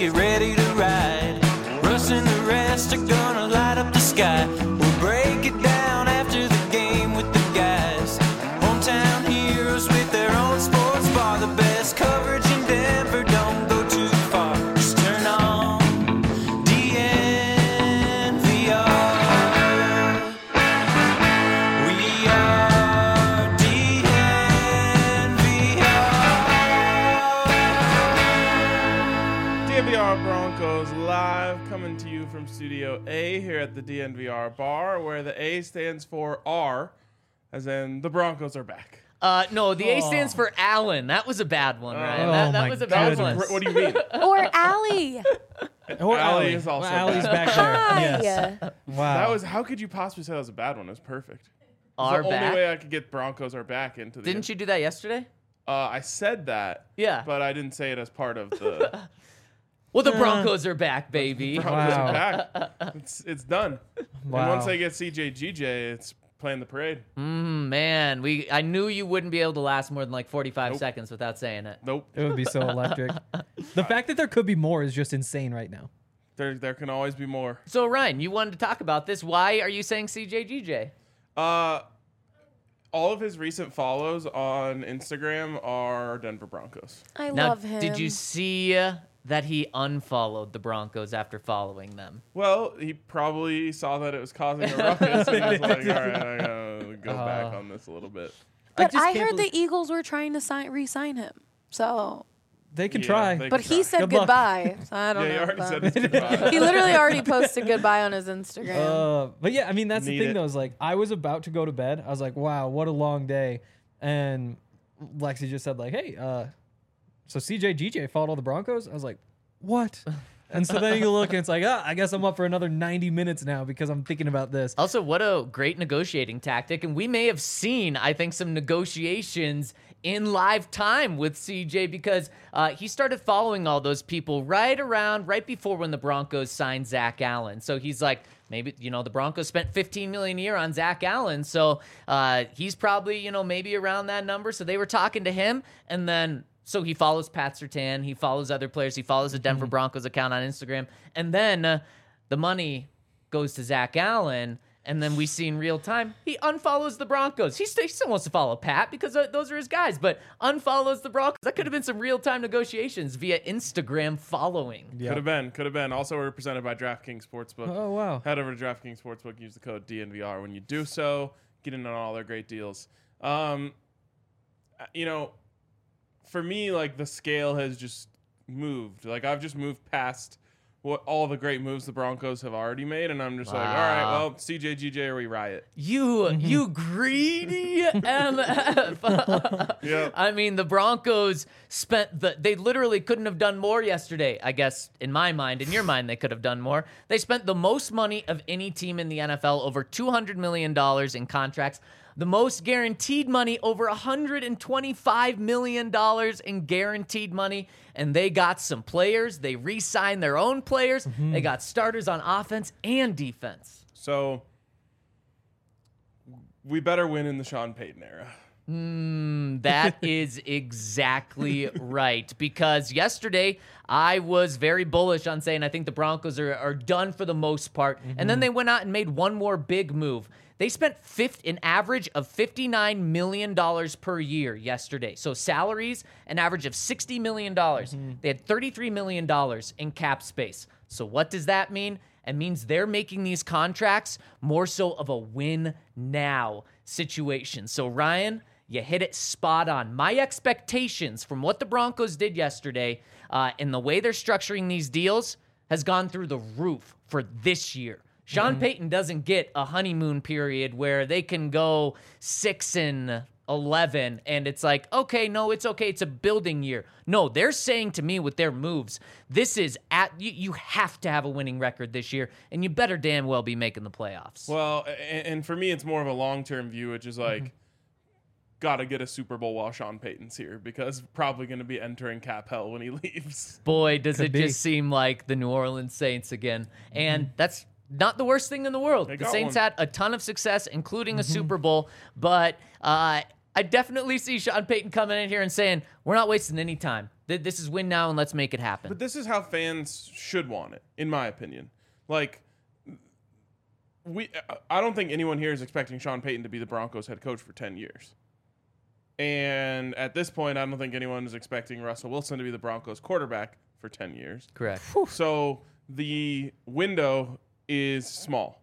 get ready to ride. Russ and the rest are gonna light up the sky. We'll break it down after the game with the guys. Hometown heroes with their own sports bar. The best coverage in Denver, don't go too far. Just turn on DNVR. We are DNVR. DNVR Broncos live, coming to you from Studio A here at the DNVR bar, where the A stands for R, as in the Broncos are back. No, the A stands for Allen. That was a bad one, Ryan. Oh, that my was a bad goodness. one. What do you mean? Or Allie. Or Allie is also Allie's bad. back there. Hi. Yes. Wow. That was. How could you possibly say that was a bad one? It was perfect. Are It's the back. only way I could get Broncos are back into the. Didn't you do that yesterday? I said that. Yeah. But I didn't say it as part of the. Well, the Broncos are back, baby. Broncos Wow. are back. It's done. Wow. And once they get CJ it's playing the parade. Man, I knew you wouldn't be able to last more than like 45 Nope. seconds without saying it. Nope. It would be so electric. The fact that there could be more is just insane right now. There can always be more. So, Ryan, you wanted to talk about this. Why are you saying CJGJ? All of his recent follows on Instagram are Denver Broncos. I Now, love him. did you see that he unfollowed the Broncos after following them? Well, he probably saw that it was causing a ruckus and was like, all right, I gotta go back on this a little bit. But just I can't heard believe- the Eagles were trying to re-sign him. So, They can Yeah, try. they but can he try. said Good luck. goodbye. So I don't Yeah, know. he already about- said his goodbye. He literally already posted goodbye on his Instagram. But yeah, I mean, that's Need the thing, it. though, is like, I was about to go to bed. I was like, wow, what a long day. And Lexi just said, like, hey, so CJ followed all the Broncos? I was like, what? And so then you look and it's like, I guess I'm up for another 90 minutes now because I'm thinking about this. Also, what a great negotiating tactic. And we may have seen, I think, some negotiations in live time with CJ because he started following all those people right before when the Broncos signed Zach Allen. So he's like, maybe, the Broncos spent $15 million a year on Zach Allen. So he's probably, maybe around that number. So they were talking to him. And then, so he follows Pat Surtain. He follows other players. He follows the Denver Broncos account on Instagram. And then the money goes to Zach Allen. And then we see in real time, he unfollows the Broncos. He still wants to follow Pat because those are his guys, but unfollows the Broncos. That could have been some real-time negotiations via Instagram following. Yeah. Could have been. Also, we're represented by DraftKings Sportsbook. Oh, wow. Head over to DraftKings Sportsbook. Use the code DNVR when you do so. Get in on all their great deals. For me, like, the scale has just moved. Like, I've just moved past what all the great moves the Broncos have already made, and I'm just like, all right, well, CJ or we riot. You greedy MF. Yeah. I mean, the Broncos they literally couldn't have done more yesterday. I guess, in my mind, in your mind, they could have done more. They spent the most money of any team in the NFL, over $200 million in contracts. The most guaranteed money, over $125 million in guaranteed money. And they got some players. They re-signed their own players. They got starters on offense and defense. So we better win in the Sean Payton era. That is exactly right. Because yesterday, I was very bullish on saying I think the Broncos are done for the most part. And then they went out and made one more big move. They spent an average of $59 million per year yesterday. So salaries, an average of $60 million. They had $33 million in cap space. So what does that mean? It means they're making these contracts more so of a win now situation. So Ryan, you hit it spot on. My expectations from what the Broncos did yesterday and the way they're structuring these deals has gone through the roof for this year. Sean Payton doesn't get a honeymoon period where they can go 6-11 and it's like, okay, no, it's okay. It's a building year. No, they're saying to me with their moves, this is you have to have a winning record this year and you better damn well be making the playoffs. Well, and for me, it's more of a long-term view, which is like, got to get a Super Bowl while Sean Payton's here because probably going to be entering cap hell when he leaves. Boy, does Could it be. just seem like the New Orleans Saints again. And that's not the worst thing in the world. They The got Saints one. had a ton of success, including a Super Bowl, but I definitely see Sean Payton coming in here and saying, we're not wasting any time. This is win now and let's make it happen. But this is how fans should want it, in my opinion. Like, I don't think anyone here is expecting Sean Payton to be the Broncos head coach for 10 years. And at this point, I don't think anyone is expecting Russell Wilson to be the Broncos quarterback for 10 years. Correct. So the window is small.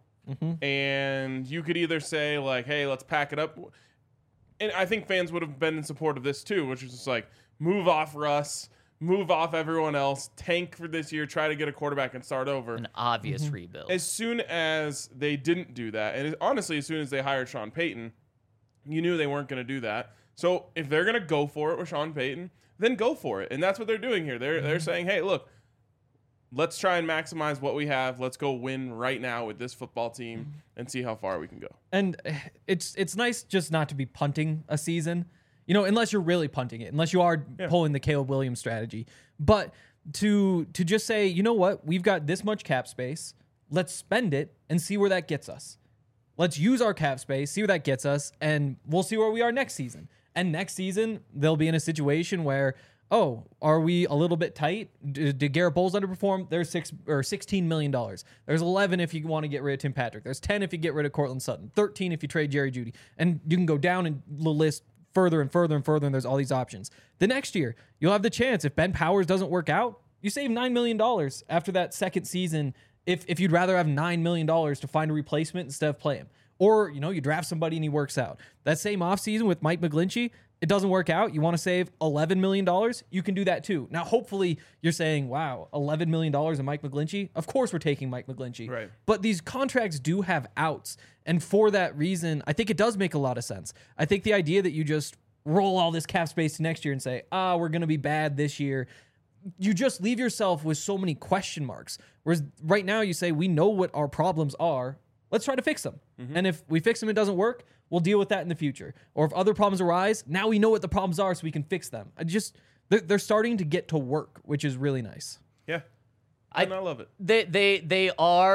And you could either say, like, hey, let's pack it up. And I think fans would have been in support of this too, which is just like, move off Russ, move off everyone else, tank for this year, try to get a quarterback and start over. An obvious rebuild. As soon as they didn't do that, and honestly, as soon as they hired Sean Payton, you knew they weren't going to do that. So if they're going to go for it with Sean Payton, then go for it. And that's what they're doing here. They're saying, hey, look, let's try and maximize what we have. Let's go win right now with this football team and see how far we can go. And it's nice just not to be punting a season, unless you're really punting it, unless you are pulling the Caleb Williams strategy. But to just say, you know what, we've got this much cap space, let's spend it and see where that gets us. Let's use our cap space, see where that gets us, and we'll see where we are next season. And next season, they'll be in a situation where, oh, are we a little bit tight? Did Garrett Bowles underperform? There's $16 million. There's 11 if you want to get rid of Tim Patrick. There's 10 if you get rid of Cortland Sutton. 13 if you trade Jerry Jeudy. And you can go down in the list further and further and further, and there's all these options. The next year, you'll have the chance, if Ben Powers doesn't work out, you save $9 million after that second season if you'd rather have $9 million to find a replacement instead of play him. Or, you draft somebody and he works out. That same offseason with Mike McGlinchey, it doesn't work out. You want to save $11 million? You can do that too. Now, hopefully you're saying, wow, $11 million in Mike McGlinchey? Of course we're taking Mike McGlinchey. Right. But these contracts do have outs. And for that reason, I think it does make a lot of sense. I think the idea that you just roll all this cap space to next year and say, we're going to be bad this year, you just leave yourself with so many question marks. Whereas right now you say, we know what our problems are. Let's try to fix them. And if we fix them and it doesn't work, we'll deal with that in the future. Or if other problems arise, now we know what the problems are so we can fix them. They're starting to get to work, which is really nice. Yeah. I love it. They're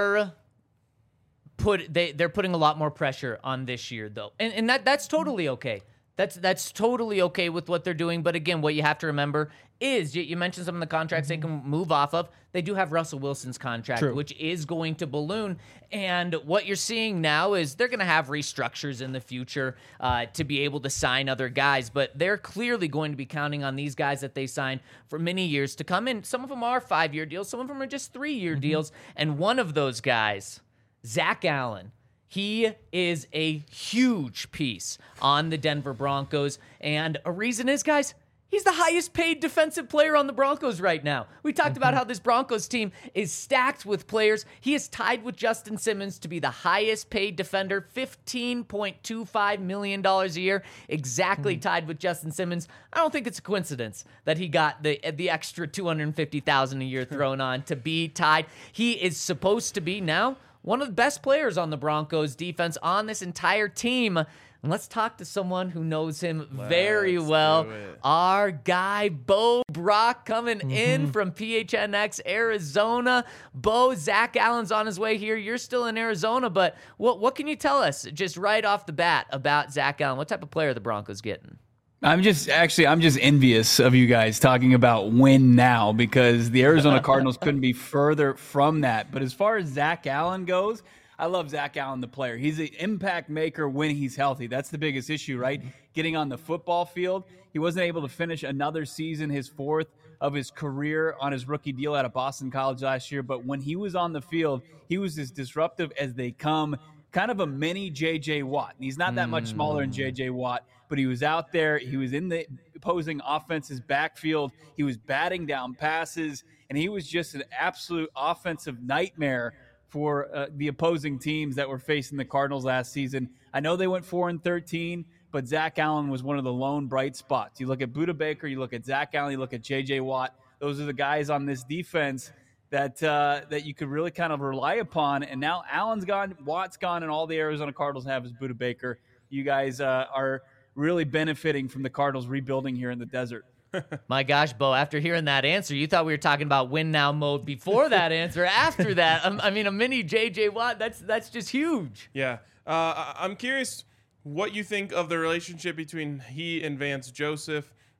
putting a lot more pressure on this year though. And that's totally okay. That's totally okay with what they're doing. But again, what you have to remember is you mentioned some of the contracts they can move off of. They do have Russell Wilson's contract, which is going to balloon. And what you're seeing now is they're going to have restructures in the future to be able to sign other guys. But they're clearly going to be counting on these guys that they sign for many years to come in. Some of them are 5-year deals. Some of them are just 3-year deals. And one of those guys, Zach Allen, he is a huge piece on the Denver Broncos. And a reason is, guys, he's the highest paid defensive player on the Broncos right now. We talked about how this Broncos team is stacked with players. He is tied with Justin Simmons to be the highest paid defender, $15.25 million a year, exactly tied with Justin Simmons. I don't think it's a coincidence that he got the extra $250,000 a year thrown on to be tied. He is supposed to be now one of the best players on the Broncos defense on this entire team. And let's talk to someone who knows him very well. Our guy, Bo Brock, coming in from PHNX, Arizona. Bo, Zach Allen's on his way here. You're still in Arizona, but what can you tell us just right off the bat about Zach Allen? What type of player are the Broncos getting? I'm just envious of you guys talking about win now, because the Arizona Cardinals couldn't be further from that. But as far as Zach Allen goes, I love Zach Allen, the player. He's an impact maker when he's healthy. That's the biggest issue, right? Getting on the football field. He wasn't able to finish another season, his 4th of his career on his rookie deal out of Boston College last year. But when he was on the field, he was as disruptive as they come. Kind of a mini J.J. Watt. And he's not that much smaller than J.J. Watt, but he was out there. He was in the opposing offense's backfield. He was batting down passes, and he was just an absolute offensive nightmare for the opposing teams that were facing the Cardinals last season. I know they went 4-13, but Zach Allen was one of the lone bright spots. You look at Budda Baker, you look at Zach Allen, you look at J.J. Watt. Those are the guys on this defense that you could really kind of rely upon. And now Allen's gone, Watt's gone, and all the Arizona Cardinals have is Budda Baker. You guys are really benefiting from the Cardinals rebuilding here in the desert. My gosh, Bo, after hearing that answer, you thought we were talking about win now mode before that answer. After that, I mean, a mini J.J. Watt, that's just huge. Yeah. I'm curious what you think of the relationship between he and Vance Joseph.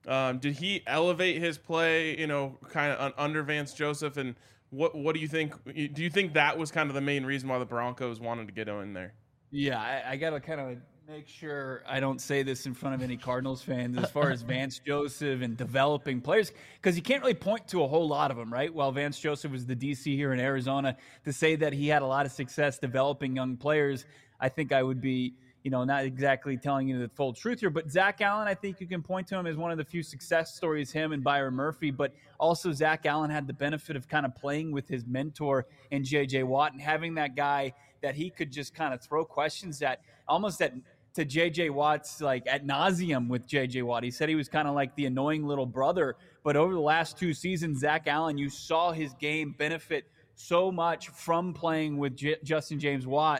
Did he elevate his play, kind of under Vance Joseph? And what do you think? Do you think that was kind of the main reason why the Broncos wanted to get him in there? Yeah, I got to kind of make sure I don't say this in front of any Cardinals fans as far as Vance Joseph and developing players, because you can't really point to a whole lot of them, right? While Vance Joseph was the DC here in Arizona, to say that he had a lot of success developing young players, I think I would be, not exactly telling you the full truth here. But Zach Allen, I think you can point to him as one of the few success stories, him and Byron Murphy. But also Zach Allen had the benefit of kind of playing with his mentor in J.J. Watt and having that guy that he could just kind of throw questions at, almost to J.J. Watt's like ad nauseum with J.J. Watt. He said he was kind of like the annoying little brother. But over the last 2 seasons, Zach Allen, you saw his game benefit so much from playing with Justin James Watt.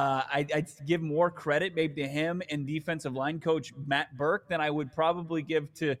I'd give more credit maybe to him and defensive line coach Matt Burke than I would probably give to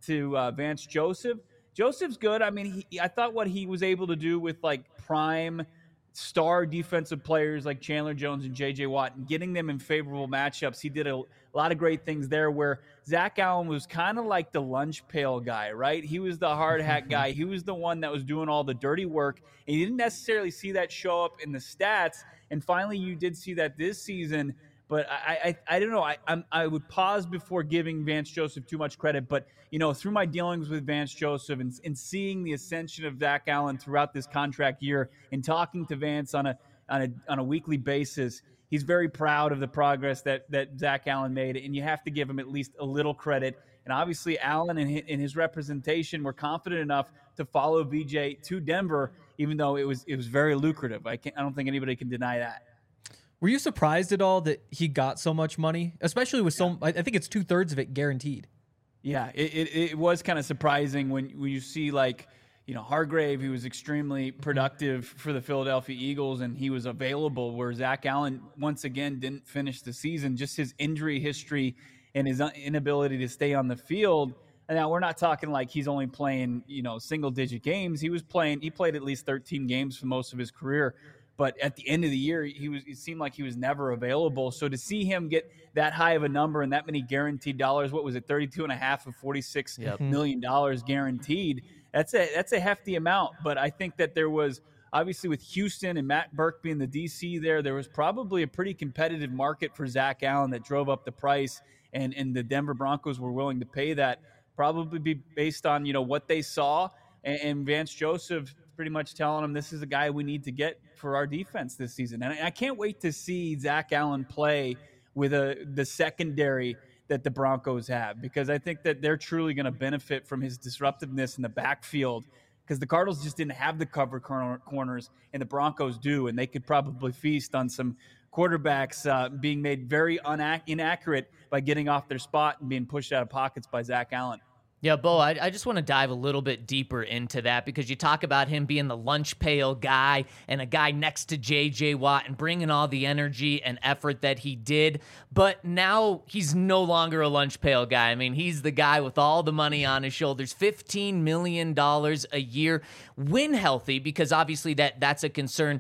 Vance Joseph. Joseph's good. I mean, I thought what he was able to do with like prime star defensive players like Chandler Jones and J.J. Watt and getting them in favorable matchups, he did a lot of great things there, where Zach Allen was kind of like the lunch pail guy, right? He was the hard hat guy. He was the one that was doing all the dirty work, and you didn't necessarily see that show up in the stats. And finally, you did see that this season. But I don't know. I would pause before giving Vance Joseph too much credit. But, through my dealings with Vance Joseph and seeing the ascension of Zach Allen throughout this contract year and talking to Vance on a weekly basis, he's very proud of the progress that Zach Allen made. And you have to give him at least a little credit. And obviously, Allen and his representation were confident enough to follow VJ to Denver, even though it was very lucrative. I don't think anybody can deny that. Were you surprised at all that he got so much money, especially with I think it's 2/3 of it guaranteed? Yeah, it was kind of surprising when you see Hargrave, he was extremely productive for the Philadelphia Eagles and he was available, where Zach Allen once again didn't finish the season. Just his injury history and his inability to stay on the field. And now we're not talking like he's only playing, single digit games. He played at least 13 games for most of his career. But at the end of the year, it seemed like he was never available. So to see him get that high of a number and that many guaranteed dollars, what was it, 32.5 of $46 million guaranteed, that's a hefty amount. But I think that there was, obviously with Houston and Matt Burke being the DC there was probably a pretty competitive market for Zach Allen that drove up the price, and the Denver Broncos were willing to pay that, probably be based on, what they saw, and Vance Joseph pretty much telling him this is a guy we need to get for our defense this season. And I can't wait to see Zach Allen play with the secondary that the Broncos have, because I think that they're truly going to benefit from his disruptiveness in the backfield, because the Cardinals just didn't have the cover corners, and the Broncos do, and they could probably feast on some quarterbacks being made very inaccurate by getting off their spot and being pushed out of pockets by Zach Allen. Yeah, Bo, I just want to dive a little bit deeper into that, because you talk about him being the lunch pail guy and a guy next to J.J. Watt and bringing all the energy and effort that he did. But now he's no longer a lunch pail guy. I mean, he's the guy with all the money on his shoulders, $15 million a year when healthy, because obviously that's a concern.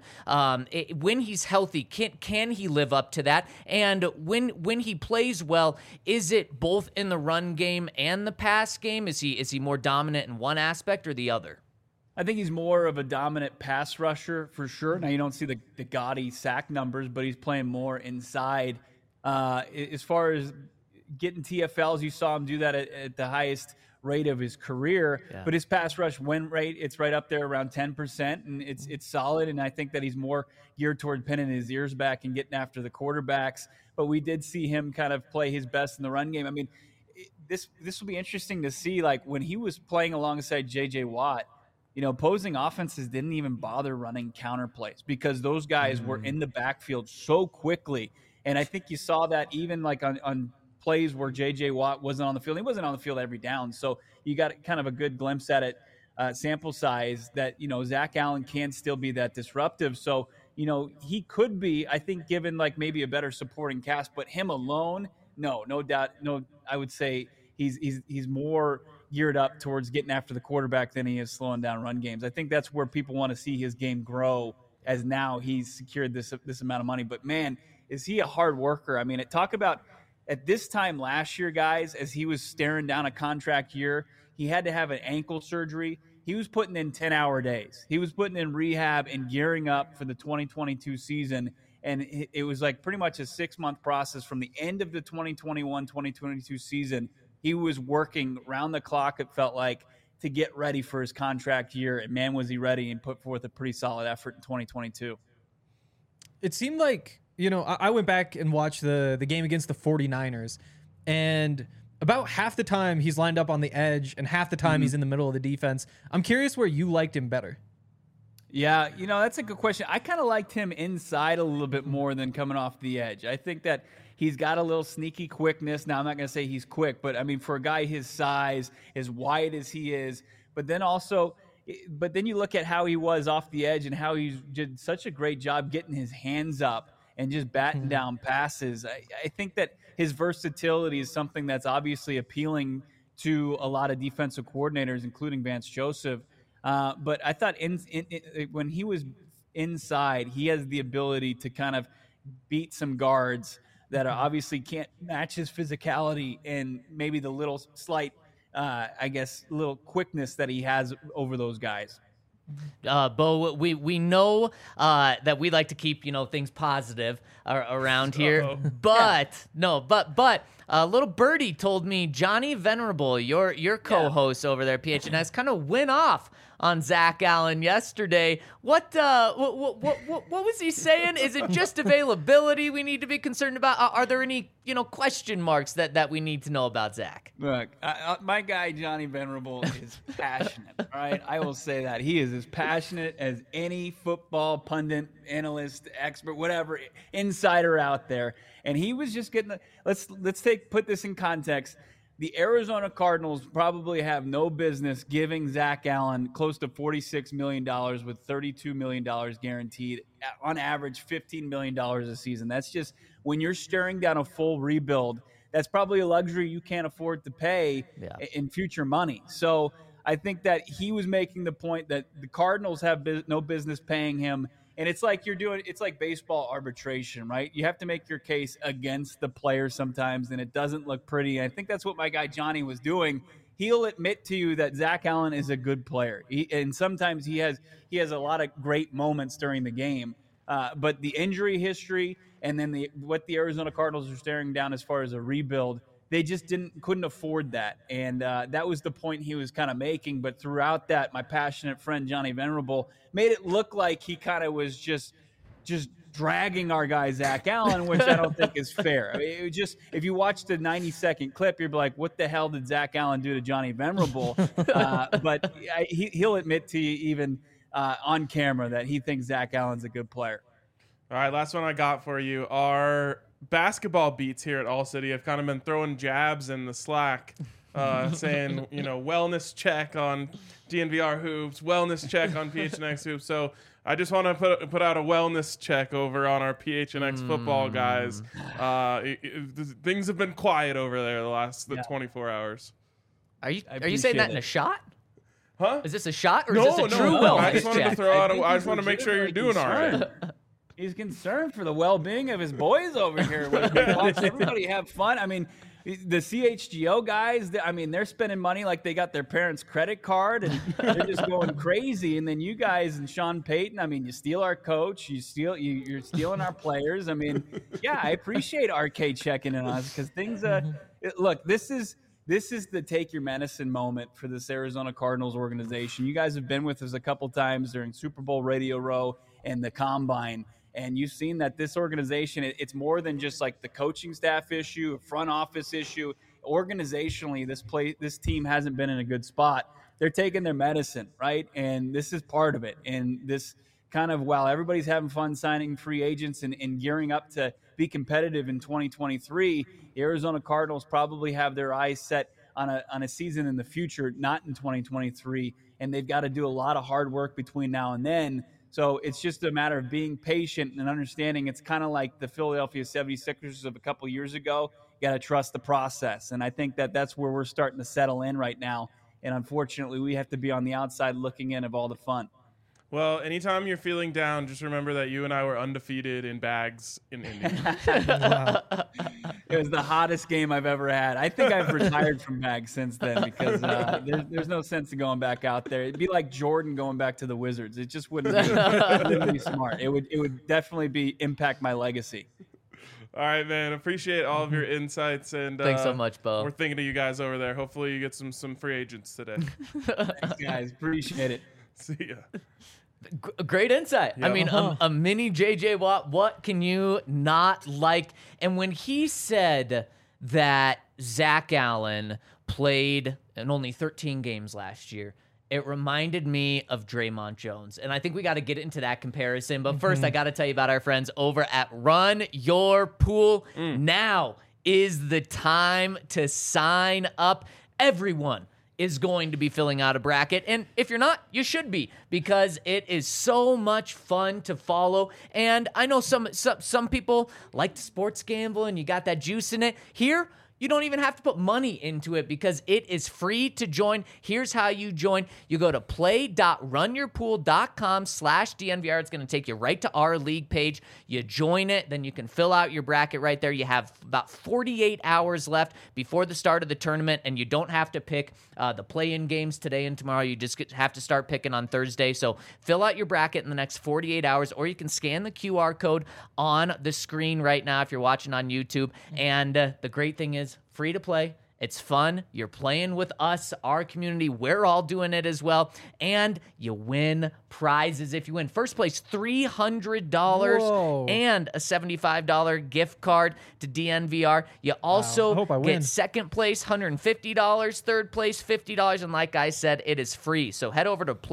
When he's healthy, can he live up to that? And when he plays well, is it both in the run game and the pass game? Is he more dominant in one aspect or the other? I think he's more of a dominant pass rusher for sure. Now, you don't see the gaudy sack numbers, but he's playing more inside. As far as getting TFLs, you saw him do that at the highest rate of his career. Yeah. But his pass rush win rate, it's right up there around 10%, and it's solid. And I think that he's more geared toward pinning his ears back and getting after the quarterbacks. But we did see him kind of play his best in the run game. I mean, this will be interesting to see, like when he was playing alongside J.J. Watt, opposing offenses didn't even bother running counter plays because those guys were in the backfield so quickly. And I think you saw that even like on plays where J.J. Watt wasn't on the field. He wasn't on the field every down. So you got kind of a good glimpse at it, sample size, that, Zach Allen can still be that disruptive. So, he could be, I think, given like maybe a better supporting cast, but him alone, no doubt. No, I would say he's more geared up towards getting after the quarterback than he is slowing down run games. I think that's where people want to see his game grow, as now he's secured this amount of money. But man, is he a hard worker? I mean, talk about at this time last year, guys, as he was staring down a contract year, he had to have an ankle surgery. He was putting in 10-hour days. He was putting in rehab and gearing up for the 2022 season. And it was like pretty much a 6-month process from the end of the 2021-2022 season. He was working round the clock, it felt like, to get ready for his contract year. And man, was he ready, and put forth a pretty solid effort in 2022. It seemed like, I went back and watched the game against the 49ers, and about half the time he's lined up on the edge and half the time he's in the middle of the defense. I'm curious where you liked him better. Yeah, that's a good question. I kind of liked him inside a little bit more than coming off the edge. I think that he's got a little sneaky quickness. Now, I'm not going to say he's quick, but I mean, for a guy his size, as wide as he is, but then you look at how he was off the edge and how he did such a great job getting his hands up and just batting down passes. I think that his versatility is something that's obviously appealing to a lot of defensive coordinators, including Vance Joseph. But I thought when he was inside, he has the ability to kind of beat some guards that obviously can't match his physicality and maybe the little slight, little quickness that he has over those guys. Bo, we know that we like to keep things positive around here, but little birdie told me Johnny Venerable, your co-host over there at PHNX, kind of went off on Zach Allen yesterday. What was he saying? Is it just availability we need to be concerned about? Are there any question marks that we need to know about Zach? Look, my guy Johnny Venerable is passionate. All right, I will say that he is as passionate as any football pundit, analyst, expert, whatever insider out there. And he was just getting let's put this in context. The Arizona Cardinals probably have no business giving Zach Allen close to $46 million with $32 million guaranteed, on average $15 million a season. That's just, when you're staring down a full rebuild, that's probably a luxury you can't afford to pay in future money. So I think that he was making the point that the Cardinals have no business paying him. And it's like it's like baseball arbitration, right? You have to make your case against the player sometimes, and it doesn't look pretty. And I think that's what my guy Johnny was doing. He'll admit to you that Zach Allen is a good player. And sometimes he has a lot of great moments during the game. But the injury history and then what the Arizona Cardinals are staring down as far as a rebuild, they just couldn't afford that. And that was the point he was kind of making. But throughout that, my passionate friend Johnny Venerable made it look like he kind of was just dragging our guy Zach Allen, which I don't think is fair. I mean, it was just, if you watch the 90-second clip, you're like, what the hell did Zach Allen do to Johnny Venerable? But he'll admit to you even on camera that he thinks Zach Allen's a good player. All right, last one I got for you. Our basketball beats here at All City have kind of been throwing jabs in the Slack, saying, wellness check on DNVR hoops, wellness check on PHNX hoops. So I just want to put out a wellness check over on our PHNX football guys. Things have been quiet over there the 24 hours. Are you saying that in a shot? Huh? Is this a shot or is this a true wellness I just wanted check? to throw out. I just want to make sure you're doing all right. He's concerned for the well-being of his boys over here. Watch everybody have fun. I mean, the CHGO guys, they're spending money like they got their parents' credit card, and they're just going crazy. And then you guys and Sean Payton, you steal our coach, you're stealing our players. I appreciate RK checking in on us because things. Look, this is the take your medicine moment for this Arizona Cardinals organization. You guys have been with us a couple times during Super Bowl Radio Row and the Combine. And you've seen that this organization, it's more than just like the coaching staff issue, a front office issue. Organizationally, this team hasn't been in a good spot. They're taking their medicine, right? And this is part of it. And this kind of, while everybody's having fun signing free agents and gearing up to be competitive in 2023, the Arizona Cardinals probably have their eyes set on a season in the future, not in 2023. And they've got to do a lot of hard work between now and then. So it's just a matter of being patient and understanding. It's kind of like the Philadelphia 76ers of a couple years ago. You got to trust the process. And I think that's where we're starting to settle in right now. And unfortunately, we have to be on the outside looking in of all the fun. Well, anytime you're feeling down, just remember that you and I were undefeated in bags in Indy. It was the hottest game I've ever had. I think I've retired from bags since then because there's no sense in going back out there. It'd be like Jordan going back to the Wizards. It just wouldn't be smart. It would definitely impact my legacy. All right, man. Appreciate all of your insights and Thanks so much, Bo. We're thinking of you guys over there. Hopefully, you get some free agents today. Thanks, guys. Appreciate it. See ya. Great insight. I Yeah. mean, a mini JJ Watt. What can you not like? And when he said that Zach Allen played in only 13 games last year, it reminded me of Draymond Jones. And I think we got to get into that comparison. But first, I got to tell you about our friends over at Run Your Pool. Now is the time to sign up. Everyone is going to be filling out a bracket. And if you're not, you should be, because it is so much fun to follow. And I know some people like to sports gamble and you got that juice in it. Here, you don't even have to put money into it because it is free to join. Here's how you join. You go to play.runyourpool.com/DNVR. It's going to take you right to our league page. You join it, then you can fill out your bracket right there. You have about 48 hours left before the start of the tournament, and you don't have to pick the play-in games today and tomorrow. You just have to start picking on Thursday. So fill out your bracket in the next 48 hours, or you can scan the QR code on the screen right now if you're watching on YouTube. And the great thing is, free to play. It's fun. You're playing with us, our community. We're all doing it as well. And you win prizes if you win. First place, $300 Whoa. and a $75 gift card to DNVR. You also I hope I win. get second place, $150, third place, $50. And like I said, it is free. So head over to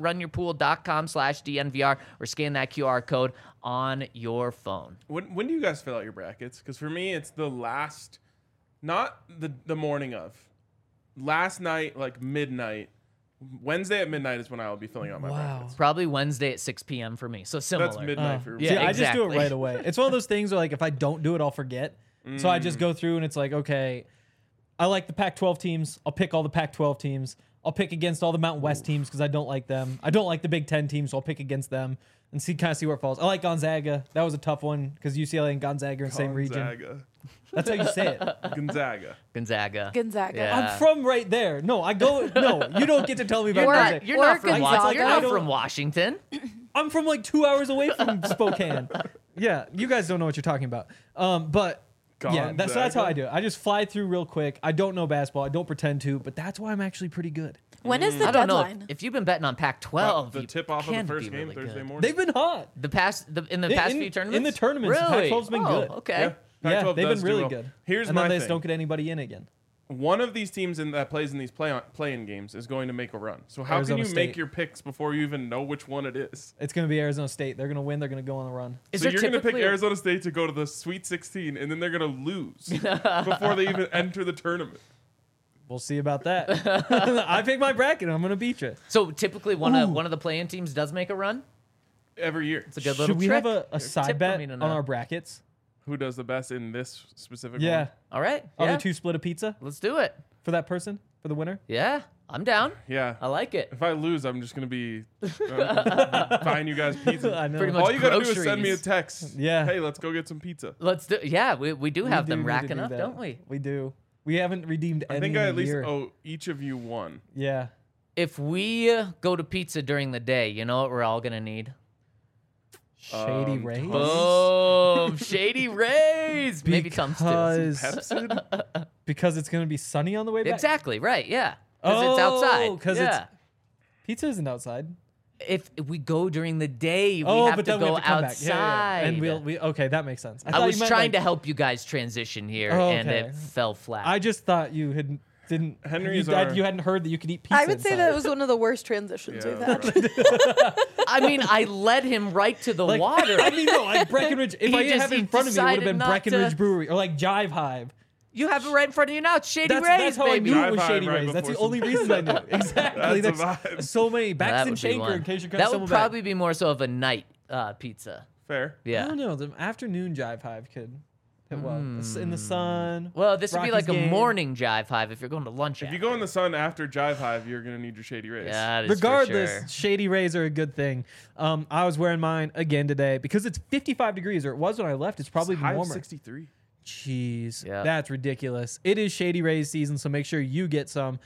play.runyourpool.com/DNVR or scan that QR code on your phone. When do you guys fill out your brackets? Because for me, it's the last, not the morning of. Last night, like midnight. Wednesday at midnight is when I will be filling out my brackets. Probably Wednesday at 6 p.m. for me. So similar. That's midnight for me. Yeah, See, I just do it exactly. right away. It's one of those things where, like, if I don't do it, I'll forget. So I just go through and it's like, okay, I like the Pac-12 teams. I'll pick all the Pac-12 teams. I'll pick against all the Mountain West teams because I don't like them. I don't like the Big Ten teams, so I'll pick against them and see where it falls. I like Gonzaga. That was a tough one because UCLA and Gonzaga are in the same region. Gonzaga. That's how you say it. Gonzaga. Gonzaga. Gonzaga. Yeah. I'm from right there. No, I go. No, you don't get to tell me about You're Gonzaga. not, you're not from Gonzaga. Washington. You're not I don't- from Washington. I'm from like 2 hours away from Spokane. Yeah, you guys don't know what you're talking about. But yeah, so that's how I do it. I just fly through real quick. I don't know basketball. I don't pretend to, but that's why I'm actually pretty good. When is the I don't deadline? know. If you've been betting on Pac-12, The you tip off of the can first be game really Thursday good. morning. They've been hot. In the past few tournaments? In the tournaments, Really? Pac-12's been Oh, good. okay. Yeah. Yeah, Pac-12 they've does been do really well. good. Here's and my then they thing. just don't get anybody in again. One of these teams that plays in these play-in games is going to make a run. So how Arizona can you make State. your picks before you even know which one it is? It's going to be Arizona State. They're going to win. They're going to go on the run. Is So there you're going to pick typically a- Arizona State to go to the Sweet 16, and then they're going to lose before they even enter the tournament. We'll see about that. I pick my bracket. And I'm going to beat you. So typically one of the play-in teams does make a run? Every year. It's a good little Should we trick. have a Tip side for bet me to on know. our brackets? Who does the best in this specific Yeah. one? All right. Other Yeah. two split a pizza Let's do it. for that person, for the winner? Yeah. I'm down. Yeah. I like it. If I lose, I'm just going to be buying you guys pizza. I know. Pretty much All you got to do is send me a groceries. text. Yeah. Hey, let's go get some pizza. Let's do. Yeah, we do have them need to racking do up, that. don't we? We do. We haven't redeemed any I think in I a at least year. owe each of you one. Yeah. If we go to pizza during the day, you know what we're all gonna need? Shady Rays? Boom! Shady Rays. Maybe Tums too. Because Pepsi? because it's going to be sunny on the way back? Exactly right. Yeah. Because it's outside. Because yeah. pizza isn't outside. If we go during the day, we Oh, have but to then we go have to come outside. back. Yeah. And we okay, that makes sense. I thought was you meant, trying like- to help you guys transition here, Oh, and okay. it fell flat. I just thought you didn't. Henry's you, our- you hadn't heard that you could eat pizza. I would say that inside. was one of the worst transitions Yeah, we've had. right. I mean, I led him right to the Like, water. I mean, no, like Breckenridge. If He I just- have it he in front of me, it would have decided been not Breckenridge to- Brewery or like Jive Hive. You have it right in front of you now. It's Shady Rays, That's how baby. I knew it was Jive Hive Shady right Rays. That's the before only some- reason I knew. Exactly. That's a That's vibe. so many. That Baxton would be Shaker, one. in case you're That would back. probably be more so of a night pizza. Fair. I Yeah. don't know. The afternoon Jive Hive could. Well, it's in the sun. Well, this would be Rockies like a game. morning Jive Hive if you're going to lunch. If you go in the sun after Jive Hive, you're gonna need your Shady Rays. yeah, that is for Regardless, sure. shady rays are a good thing. I was wearing mine again today because it's 55 degrees, or it was when I left. It's probably It's even high of warmer. 63. Jeez, Yeah. that's ridiculous. It is Shady Rays season, so make sure you get some.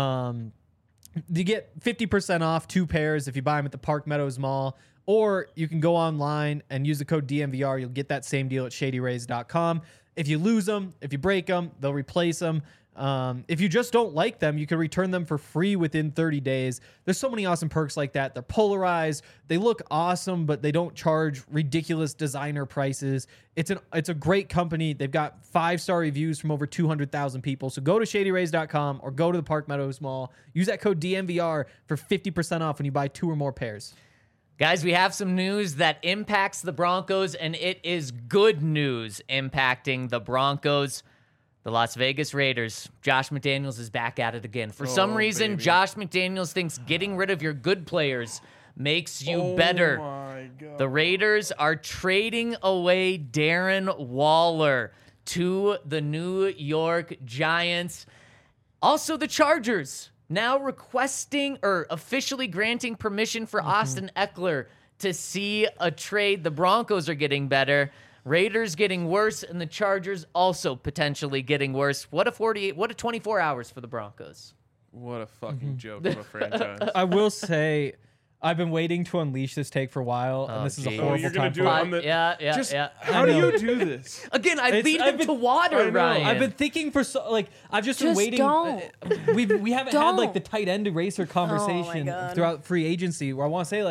You get 50% off 2 pairs if you buy them at the Park Meadows Mall, or you can go online and use the code DMVR. You'll get that same deal at shadyrays.com. If you lose them, if you break them, they'll replace them. If you just don't like them, you can return them for free within 30 days. There's so many awesome perks like that. They're polarized. They look awesome, but they don't charge ridiculous designer prices. It's a great company. They've got 5-star reviews from over 200,000 people. So go to shadyrays.com or go to the Park Meadows Mall. Use that code DMVR for 50% off when you buy 2 or more pairs. Guys, we have some news that impacts the Broncos, and it is good news impacting the Broncos. The Las Vegas Raiders. Josh McDaniels is back at it again. For some reason, baby. Josh McDaniels thinks getting rid of your good players makes you better. My God. The Raiders are trading away Darren Waller to the New York Giants. Also, the Chargers now requesting or officially granting permission for Austin Eckler to see a trade. The Broncos are getting better. Raiders getting worse, and the Chargers also potentially getting worse. What a 24 hours for the Broncos. What a fucking joke of a franchise. I will say, I've been waiting to unleash this take for a while, and this is a geez. horrible you're gonna time do for it it. on the- Yeah. How do you do this? Again, I lead I've them been- to water, I know. Ryan. I've been thinking for I've just been Just waiting. don't. We haven't had like Don't. the tight end eraser conversation God. throughout free agency where I want to say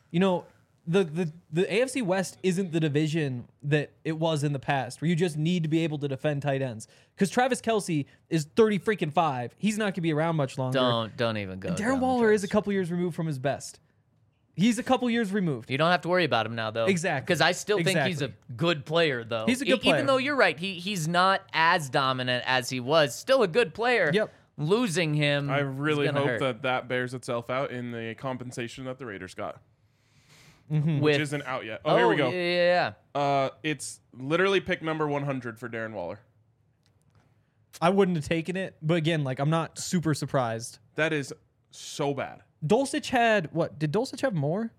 the AFC West isn't the division that it was in the past where you just need to be able to defend tight ends because Travis Kelce is 30-5. He's not going to be around much longer. Don't even go. And Darren down the Waller is a stretch. couple years removed from his best. He's a couple years removed. You don't have to worry about him now, though. Exactly. Because I still think he's a Exactly. good player, though. He's a good player. Even though you're right, he's not as dominant as he was. Still a good player. Yep. Losing him. I is really gonna hope hurt. that bears itself out in the compensation that the Raiders got, With, which isn't out yet. Oh, here we go. Yeah. It's literally pick number 100 for Darren Waller. I wouldn't have taken it, but again, I'm not super surprised. That is so bad. Dulcich had what? Did Dulcich have more?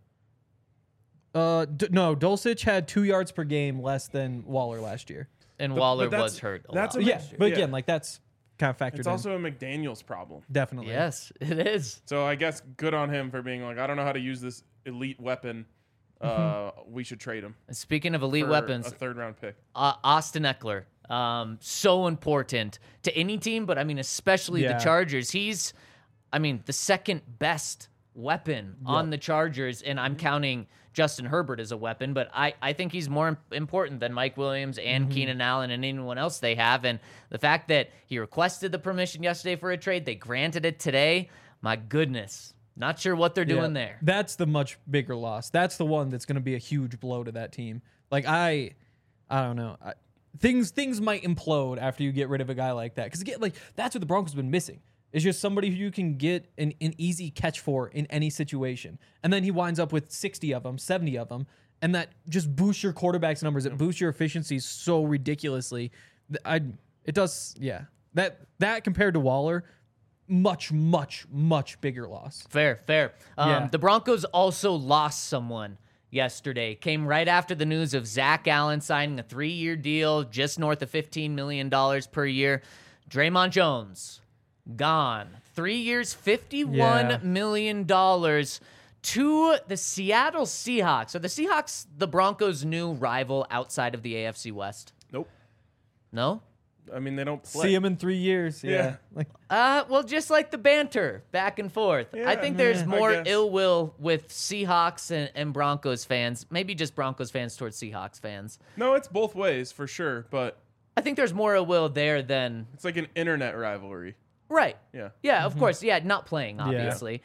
No, Dulcich had 2 yards per game less than Waller last year. And But Waller that's- was hurt a that's lot. a- Yeah, last year. but Yeah. again, that's kind of factored It's in. also a McDaniels problem. Definitely. Yes, it is. So I guess good on him for being like, I don't know how to use this elite weapon. We should trade him. And speaking of elite for weapons, a 3rd-round pick. Austin Eckler, so important to any team, but I mean, especially Yeah. the Chargers. He's, the second best weapon on the Chargers, and I'm counting Justin Herbert as a weapon, but I think he's more important than Mike Williams and Keenan Allen and anyone else they have. And the fact that he requested the permission yesterday for a trade, they granted it today, my goodness. Not sure what they're doing there. That's the much bigger loss. That's the one that's going to be a huge blow to that team. I don't know. Things might implode after you get rid of a guy like that. Because again, that's what the Broncos have been missing. It's just somebody who you can get an easy catch for in any situation. And then he winds up with 60 of them, 70 of them. And that just boosts your quarterback's numbers. It boosts your efficiency so ridiculously. It does, yeah. That compared to Waller, much, much, much bigger loss. Fair. Yeah. The Broncos also lost someone yesterday. Came right after the news of Zach Allen signing a 3-year deal, just north of $15 million per year. Draymond Jones, gone. 3 years, $51 million to the Seattle Seahawks. Are the Seahawks the Broncos' new rival outside of the AFC West? Nope. No? I mean, they don't play. See him in 3 years. Yeah. Well, just like the banter back and forth. I Yeah, think there's I more guess. ill will with Seahawks and Broncos fans. Maybe just Broncos fans towards Seahawks fans. No, it's both ways for sure, but I think there's more ill will there than it's like an internet rivalry. right. Yeah. Yeah, of course. Yeah, not playing, obviously.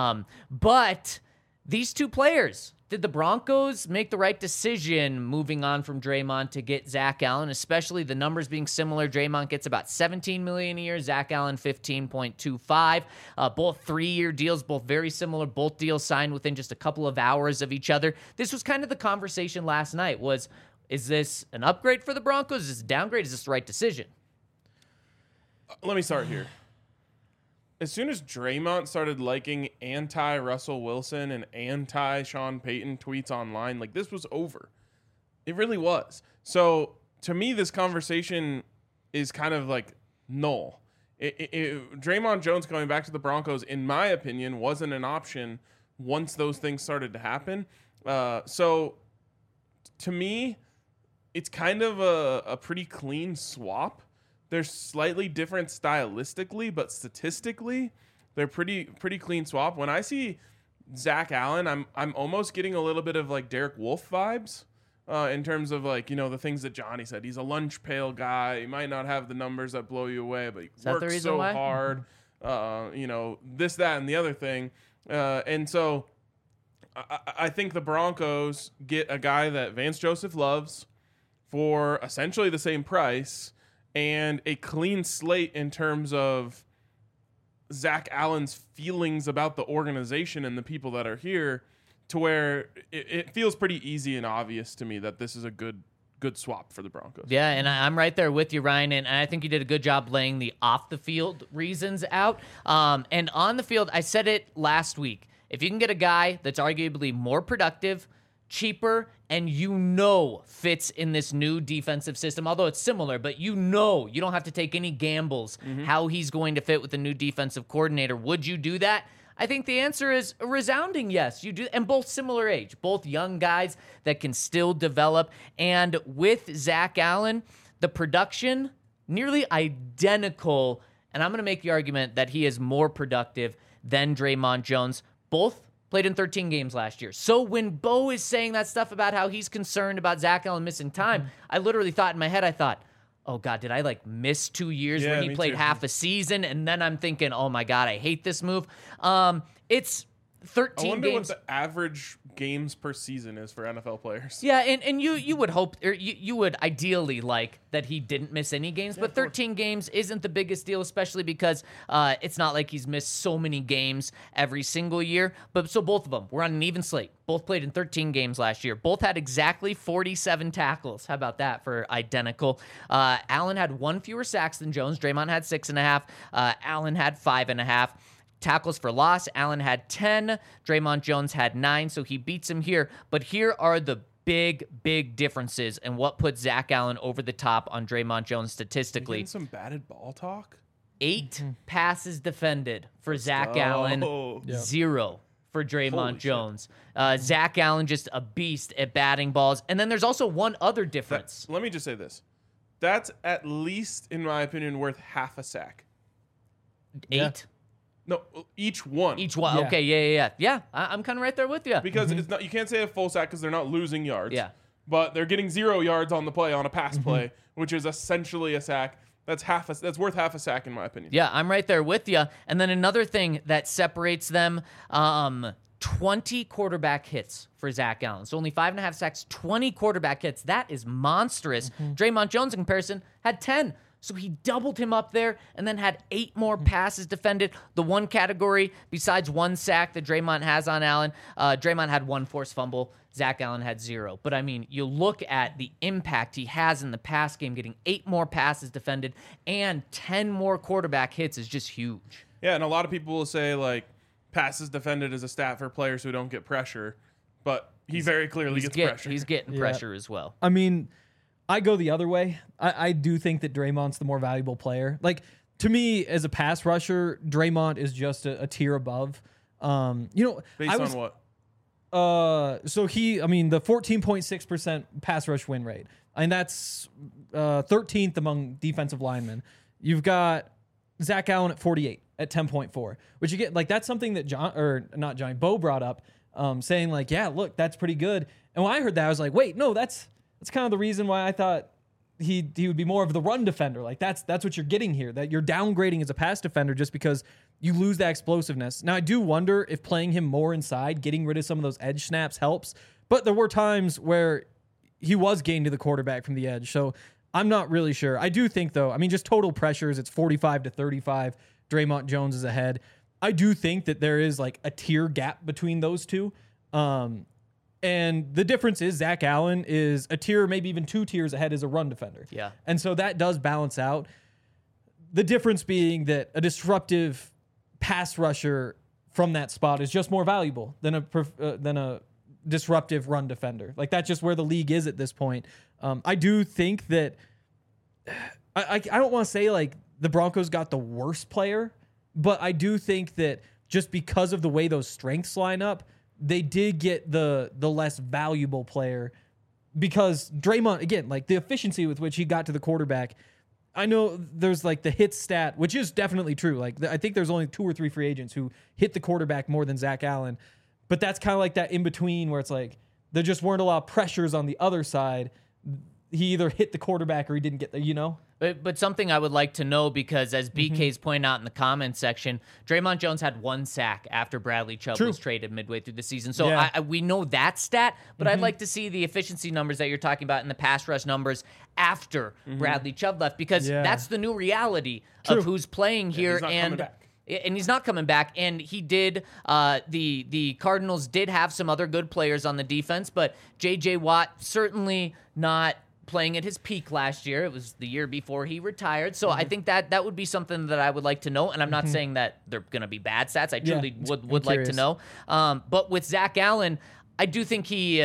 But these two players, did the Broncos make the right decision moving on from Draymond to get Zach Allen, especially the numbers being similar? Draymond gets about $17 million a year, Zach Allen $15.25. Both 3-year deals, both very similar. Both deals signed within just a couple of hours of each other. This was kind of the conversation last night was, Is this an upgrade for the Broncos? Is this a downgrade? Is this the right decision? Let me start here. As soon as Draymond started liking anti-Russell Wilson and anti-Sean Payton tweets online, like, this was over. It really was. So, to me, this conversation is kind of like null. Draymond Jones going back to the Broncos, in my opinion, wasn't an option once those things started to happen. So, to me, it's kind of a pretty clean swap. They're slightly different stylistically, but statistically, they're pretty clean swap. When I see Zach Allen, I'm almost getting a little bit of like Derek Wolfe vibes in terms of like, the things that Johnny said. He's a lunch pail guy. He might not have the numbers that blow you away, but he works so hard. This, that, and the other thing. And so I think the Broncos get a guy that Vance Joseph loves for essentially the same price, and a clean slate in terms of Zach Allen's feelings about the organization and the people that are here, to where it feels pretty easy and obvious to me that this is a good swap for the Broncos. Yeah, and I'm right there with you, Ryan, and I think you did a good job laying the off-the-field reasons out. And on the field, I said it last week. If you can get a guy that's arguably more productive, cheaper, and fits in this new defensive system, although it's similar, but you don't have to take any gambles how he's going to fit with the new defensive coordinator. Would you do that? I think the answer is a resounding yes. You do, and both similar age, both young guys that can still develop. And with Zach Allen, the production nearly identical, and I'm going to make the argument that he is more productive than Draymond Jones. Both played in 13 games last year. So when Bo is saying that stuff about how he's concerned about Zach Allen missing time, I literally thought in my head, oh God, did I miss 2 years when he played half a season? And then I'm thinking, oh my God, I hate this move. It's 13 I wonder games. what the average games per season is for NFL players. Yeah, and you would hope, or you would ideally like that he didn't miss any games, but 13 games isn't the biggest deal, especially because it's not like he's missed so many games every single year. But so both of them were on an even slate. Both played in 13 games last year. Both had exactly 47 tackles. How about that for identical? Allen had 1 fewer sacks than Jones. Draymond had 6.5. Allen had 5.5. Tackles for loss, Allen had 10. Draymond Jones had 9, so he beats him here. But here are the big differences and what puts Zach Allen over the top on Draymond Jones statistically. Getting some batted ball talk? 8 passes defended for Zach Allen, 0 for Draymond Jones. Zach Allen just a beast at batting balls. And then there's also one other difference. Let me just say this. That's at least, in my opinion, worth half a sack. 8? Yeah. No, each one. Each one. Yeah. Okay, yeah. I'm kind of right there with you. Because it's not. You can't say a full sack because they're not losing yards. Yeah. But they're getting 0 yards on the play, on a pass play, which is essentially a sack. That's worth half a sack in my opinion. Yeah, I'm right there with you. And then another thing that separates them, 20 quarterback hits for Zach Allen. So only 5.5 sacks, 20 quarterback hits. That is monstrous. Draymond Jones, in comparison, had 10. So he doubled him up there and then had 8 more passes defended. The one category, besides 1 sack that Draymond has on Allen, Draymond had 1 forced fumble. Zach Allen had 0. But, I mean, you look at the impact he has in the pass game, getting 8 more passes defended and 10 more quarterback hits is just huge. Yeah, and a lot of people will say, passes defended is a stat for players who don't get pressure. But he very clearly gets pressure. He's getting pressure as well. I mean, I go the other way. I do think that Draymond's the more valuable player. To me, as a pass rusher, Draymond is just a tier above. Based on what? So the 14.6% pass rush win rate, and that's 13th among defensive linemen. You've got Zach Allen at 48 at 10.4, which you get that's something that Bo brought up, saying look, that's pretty good. And when I heard that, I was like, wait, no, that's kind of the reason why I thought he would be more of the run defender. That's what you're getting here, that you're downgrading as a pass defender just because you lose that explosiveness. Now, I do wonder if playing him more inside, getting rid of some of those edge snaps helps, but there were times where he was gained to the quarterback from the edge, so I'm not really sure. I do think, though, just total pressures, it's 45-35. Draymond Jones is ahead. I do think that there is a tier gap between those two. And the difference is Zach Allen is a tier, maybe even 2 tiers ahead as a run defender. Yeah. And so that does balance out. The difference being that a disruptive pass rusher from that spot is just more valuable than a disruptive run defender. Like, that's just where the league is at this point. I do think that I don't want to say like the Broncos got the worst player, but I do think that just because of the way those strengths line up, they did get the less valuable player, because Draymond, again, like the efficiency with which he got to the quarterback. I know there's like the hit stat, which is definitely true. Like, I think there's only 2 or 3 free agents who hit the quarterback more than Zach Allen. But that's kind of like that in between where it's like there just weren't a lot of pressures on the other side. He either hit the quarterback or he didn't get there, you know? But something I would like to know, because as BK's pointing out in the comments section, Draymond Jones had 1 sack after Bradley Chubb was traded midway through the season. So Yeah. we know that stat, but I'd like to see the efficiency numbers that you're talking about and the pass rush numbers after Bradley Chubb left, because that's the new reality of who's playing here. he's not coming back. And he's not coming back. And he did, the Cardinals did have some other good players on the defense, but J.J. Watt certainly not playing at his peak last year. It was the year before he retired. So I think that would be something that I would like to know. And I'm not saying that they're going to be bad stats. I truly would like to know. But with Zach Allen, I do think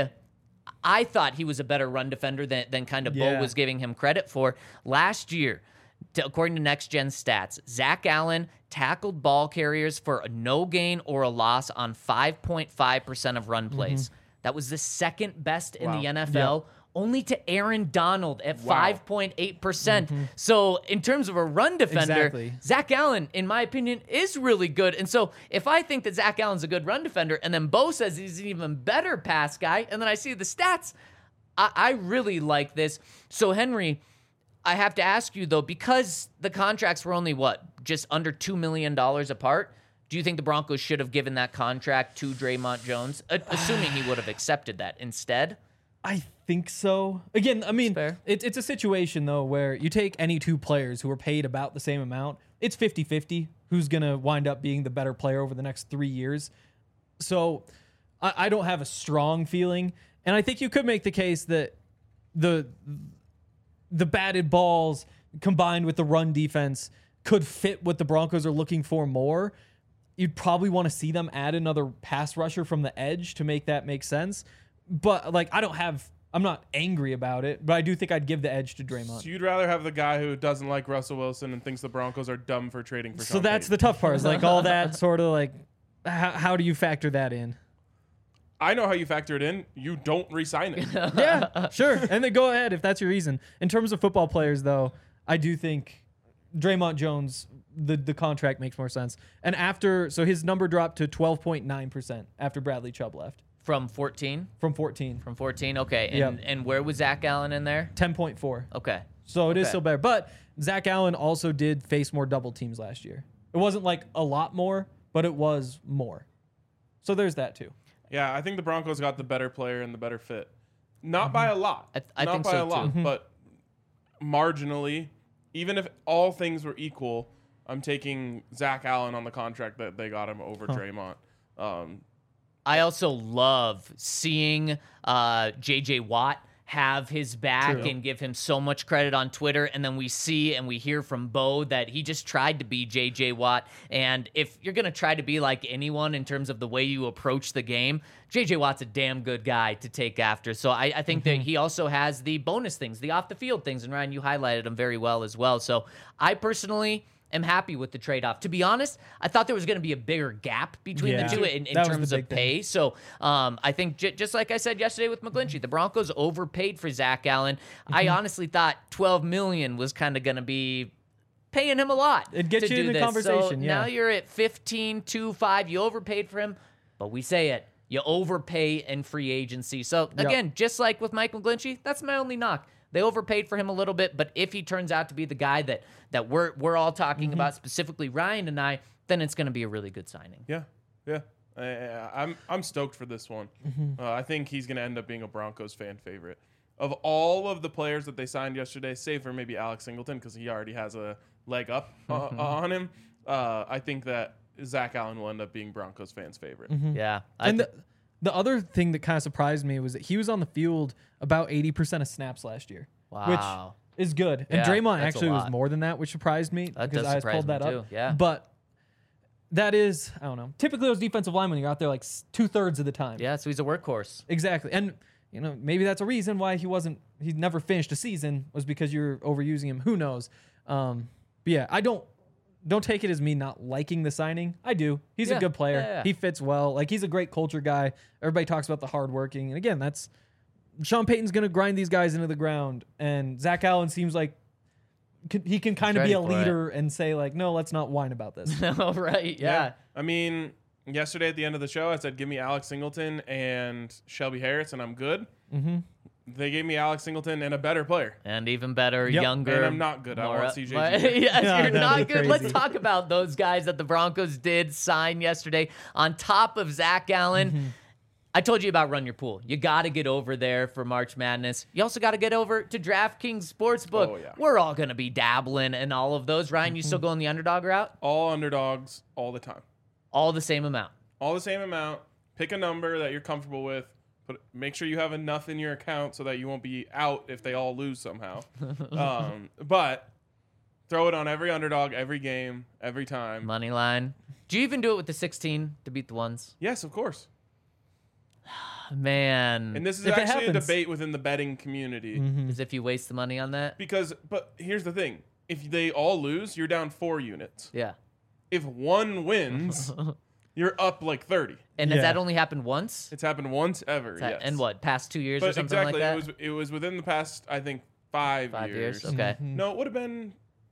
I thought he was a better run defender than kind of Bo was giving him credit for. Last year, according to Next Gen Stats, Zach Allen tackled ball carriers for a no gain or a loss on 5.5% of run plays. That was the second best in the NFL. Only to Aaron Donald at 5.8%. So in terms of a run defender, Zach Allen, in my opinion, is really good. And so if I think that Zach Allen's a good run defender, and then Bo says he's an even better pass guy, and then I see the stats, I really like this. So Henry, I have to ask you though, because the contracts were only just under $2 million apart, do you think the Broncos should have given that contract to Draymond Jones, assuming he would have accepted that instead? I think so. Again, I mean, it's a situation, though, where you take any 2 players who are paid about the same amount, it's 50-50 who's going to wind up being the better player over the next 3 years. So I don't have a strong feeling. And I think you could make the case that the batted balls combined with the run defense could fit what the Broncos are looking for more. You'd probably want to see them add another pass rusher from the edge to make that make sense. But, like, I'm not angry about it, but I do think I'd give the edge to Draymond. So you'd rather have the guy who doesn't like Russell Wilson and thinks the Broncos are dumb for trading for Sean So that's Payton. the tough part, is like all that sort of like, how do you factor that in? I know how you factor it in. You don't re-sign it. Yeah, sure. And then go ahead if that's your reason. In terms of football players, though, I do think Draymond Jones, the contract makes more sense. And so his number dropped to 12.9% after Bradley Chubb left. From 14? From 14. From 14, okay. And where was Zach Allen in there? 10.4. Okay. So it is still better. But Zach Allen also did face more double teams last year. It wasn't like a lot more, but it was more. So there's that too. Yeah, I think the Broncos got the better player and the better fit. Not by a lot. I Not think by so, a lot, too. but marginally. Even if all things were equal, I'm taking Zach Allen on the contract that they got him over Draymond. I also love seeing J.J. Watt have his back and give him so much credit on Twitter. And then we see and we hear from Bo that he just tried to be J.J. Watt. And if you're going to try to be like anyone in terms of the way you approach the game, J.J. Watt's a damn good guy to take after. So I think that he also has the bonus things, the off-the-field things. And Ryan, you highlighted them very well as well. So I personally am happy with the trade-off. To be honest, I thought there was going to be a bigger gap between the two in terms of pay. So I think just like I said yesterday with McGlinchey, the Broncos overpaid for Zach Allen. I honestly thought $12 million was kind of going to be paying him a lot. It'd get to you do in the this. conversation, So now you're at 15.25. You overpaid for him, but we say it. You overpay in free agency. So again, just like with Mike McGlinchey, that's my only knock. They overpaid for him a little bit, but if he turns out to be the guy that we're all talking about, specifically Ryan and I, then it's going to be a really good signing. Yeah. I'm stoked for this one. I think he's going to end up being a Broncos fan favorite. Of all of the players that they signed yesterday, save for maybe Alex Singleton because he already has a leg up on him, I think that Zach Allen will end up being Broncos fans' favorite. Yeah. And the other thing that kind of surprised me was that he was on the field about 80% of snaps last year. Wow. Which is good. And Yeah, Draymond that's a actually was lot. more than that, which surprised me That because does I surprise pulled me that too, up. yeah. But that is, I don't know. Typically, those defensive linemen, you're out there like 2/3 of the time. Yeah, so he's a workhorse. Exactly. And, maybe that's a reason why he never finished a season was because you're overusing him. Who knows? But yeah, I don't take it as me not liking the signing. I do. He's a good player. Yeah. He fits well. Like, he's a great culture guy. Everybody talks about the hard working. And again, Sean Payton's going to grind these guys into the ground. And Zach Allen seems like he can kind of be a ready for it. leader and say, like, no, let's not whine about this. No, right? Yeah. I mean, yesterday at the end of the show, I said, give me Alex Singleton and Shelby Harris, and I'm good. Mm-hmm. They gave me Alex Singleton and a better player. And even better, Yep. younger. And I'm not good. I want CJ. Yes, Yeah, you're that'd not be good. Let's crazy. talk about those guys that the Broncos did sign yesterday. On top of Zach Allen, Mm-hmm. I told you about Run Your Pool. You got to get over there for March Madness. You also got to get over to DraftKings Sportsbook. Oh, yeah. We're all going to be dabbling in all of those. Ryan, you Mm-hmm. still going the underdog route? All underdogs all the time. All the same amount. All the same amount. Pick a number that you're comfortable with. But make sure you have enough in your account so that you won't be out if they all lose somehow. But throw it on every underdog, every game, every time. Money line. Do you even do it with the 16 to beat the ones? Yes, of course. Man. And this is If it actually a happens. debate within the betting community. As if you waste the money on that? But here's the thing. If they all lose, you're down 4 units. Yeah. If one wins, you're up like 30. And has Yeah. that only happened once? It's happened once ever, yes. And what, past 2 years or But something exactly, like that? it was within the past, I think, 5 5 years. years? Okay. No, it would have been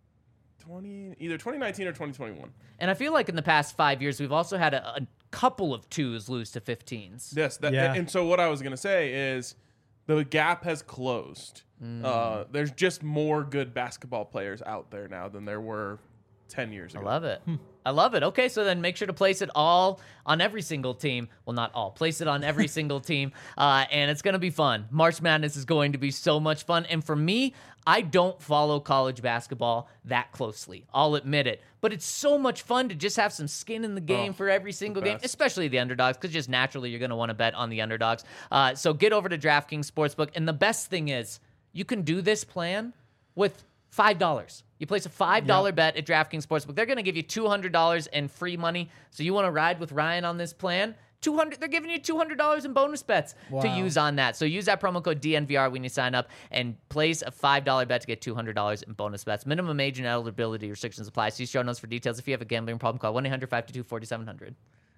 either 2019 or 2021. And I feel like in the past 5 years, we've also had a couple of 2s lose to 15s. Yes, Yeah. and so what I was gonna say is the gap has closed. There's just more good basketball players out there now than there were 10 years I ago. love it. I love it. Okay, so then make sure to place it all on every single team. Well, not all. Place it on every single team, and it's going to be fun. March Madness is going to be so much fun. And for me, I don't follow college basketball that closely. I'll admit it. But it's so much fun to just have some skin in the game for every single game, best. especially the underdogs, because just naturally you're going to want to bet on the underdogs. So get over to DraftKings Sportsbook. And the best thing is you can do this plan with $5. You place a $5 bet at DraftKings Sportsbook. They're going to give you $200 in free money. So you want to ride with Ryan on this plan? They're giving you $200 in bonus bets to Wow. use on that. So use that promo code DNVR when you sign up and place a $5 bet to get $200 in bonus bets. Minimum age and eligibility restrictions apply. See show notes for details. If you have a gambling problem, call 1-800-522-4700.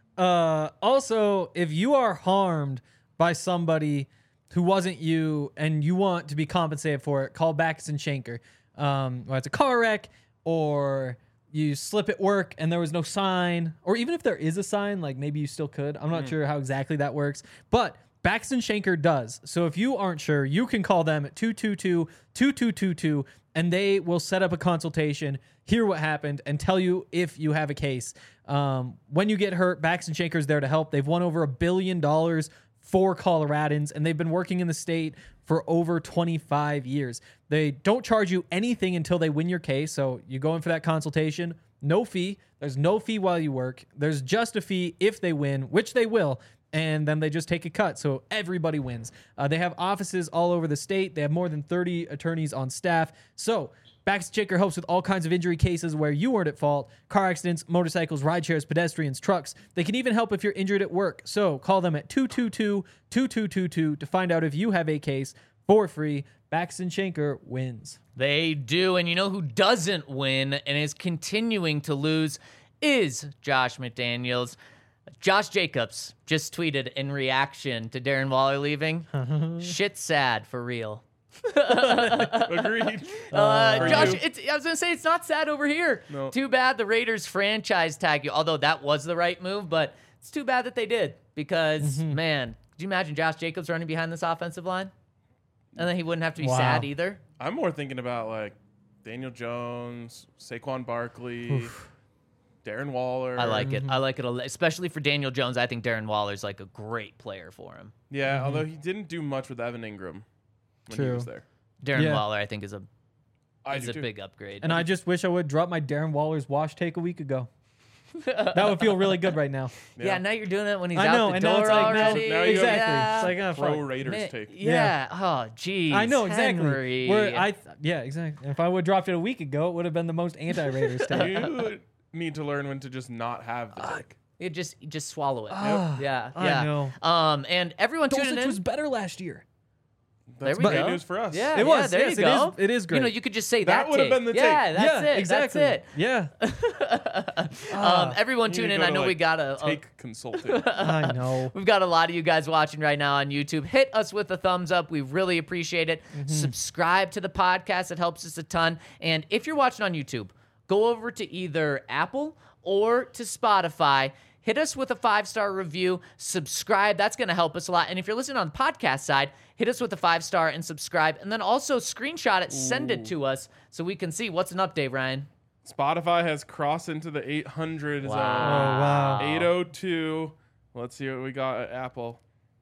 Also, if you are harmed by somebody who wasn't you and you want to be compensated for it, call Baxton Shanker. Whether it's a car wreck or you slip at work and there was no sign, or even if there is a sign, like maybe you still could. I'm not sure how exactly that works, but Baxton Shanker does. So if you aren't sure, you can call them at 222-2222 and they will set up a consultation, hear what happened, and tell you if you have a case. When you get hurt, Baxton Shanker is there to help. They've won over $1 billion for Coloradans, and they've been working in the state for over 25 years. They don't charge you anything until they win your case, so you go in for that consultation. No fee. There's no fee while you work. There's just a fee if they win, which they will, and then they just take a cut, so everybody wins. They have offices all over the state. They have more than 30 attorneys on staff. So Baxton Shanker helps with all kinds of injury cases where you weren't at fault: car accidents, motorcycles, ride shares, pedestrians, trucks. They can even help if you're injured at work. So call them at 222-2222 to find out if you have a case for free. Baxton Shanker wins. They do. And you know who doesn't win and is continuing to lose is Josh McDaniels. Josh Jacobs just tweeted in reaction to Darren Waller leaving, shit's sad for real. Agreed. Josh, you. I was going to say, it's not sad over here. No. Too bad the Raiders franchise tag you, although that was the right move, but it's too bad that they did because, man, could you imagine Josh Jacobs running behind this offensive line? And then he wouldn't have to be Wow. sad either. I'm more thinking about like Daniel Jones, Saquon Barkley, Darren Waller. I like it. I like it, especially for Daniel Jones. I think Darren Waller's like a great player for him. Yeah, although he didn't do much with Evan Ingram when he True. was there. Darren Yeah. Waller, I think, is a I do too. big upgrade. And I just wish I would drop my Darren Waller's wash take a week ago. That would feel really good right now. Yeah, now you're doing it when he's I out know, the and now door it's like, already. now you exactly. Yeah. It's like, oh, Pro fuck. Raiders Man, take. yeah. Oh, geez. I know exactly. Henry. Yeah, exactly. If I would have dropped it a week ago, it would have been the most anti-Raiders take. You need to learn when to just not have the take. You just swallow it. Yeah, I yeah. know. And everyone tuning Dulcich in. was better last year. That's we great go. news for us. Yeah, It was. there Yes, you go. it is great. You know, you could just say That that would have take. been the Yeah, take. that's it. exactly. That's it. Yeah. Everyone You tune need in. to I go know to, we like, got a take consulting. I know. We've got a lot of you guys watching right now on YouTube. Hit us with a thumbs up. We really appreciate it. Subscribe to the podcast. It helps us a ton. And if you're watching on YouTube, go over to either Apple or to Spotify. Hit us with a 5-star review. Subscribe. That's going to help us a lot. And if you're listening on the podcast side, hit us with a 5-star and subscribe. And then also screenshot it, send it to us so we can see what's an update, Ryan. Spotify has crossed into the 800 zone. wow. 802. Let's see what we got at Apple.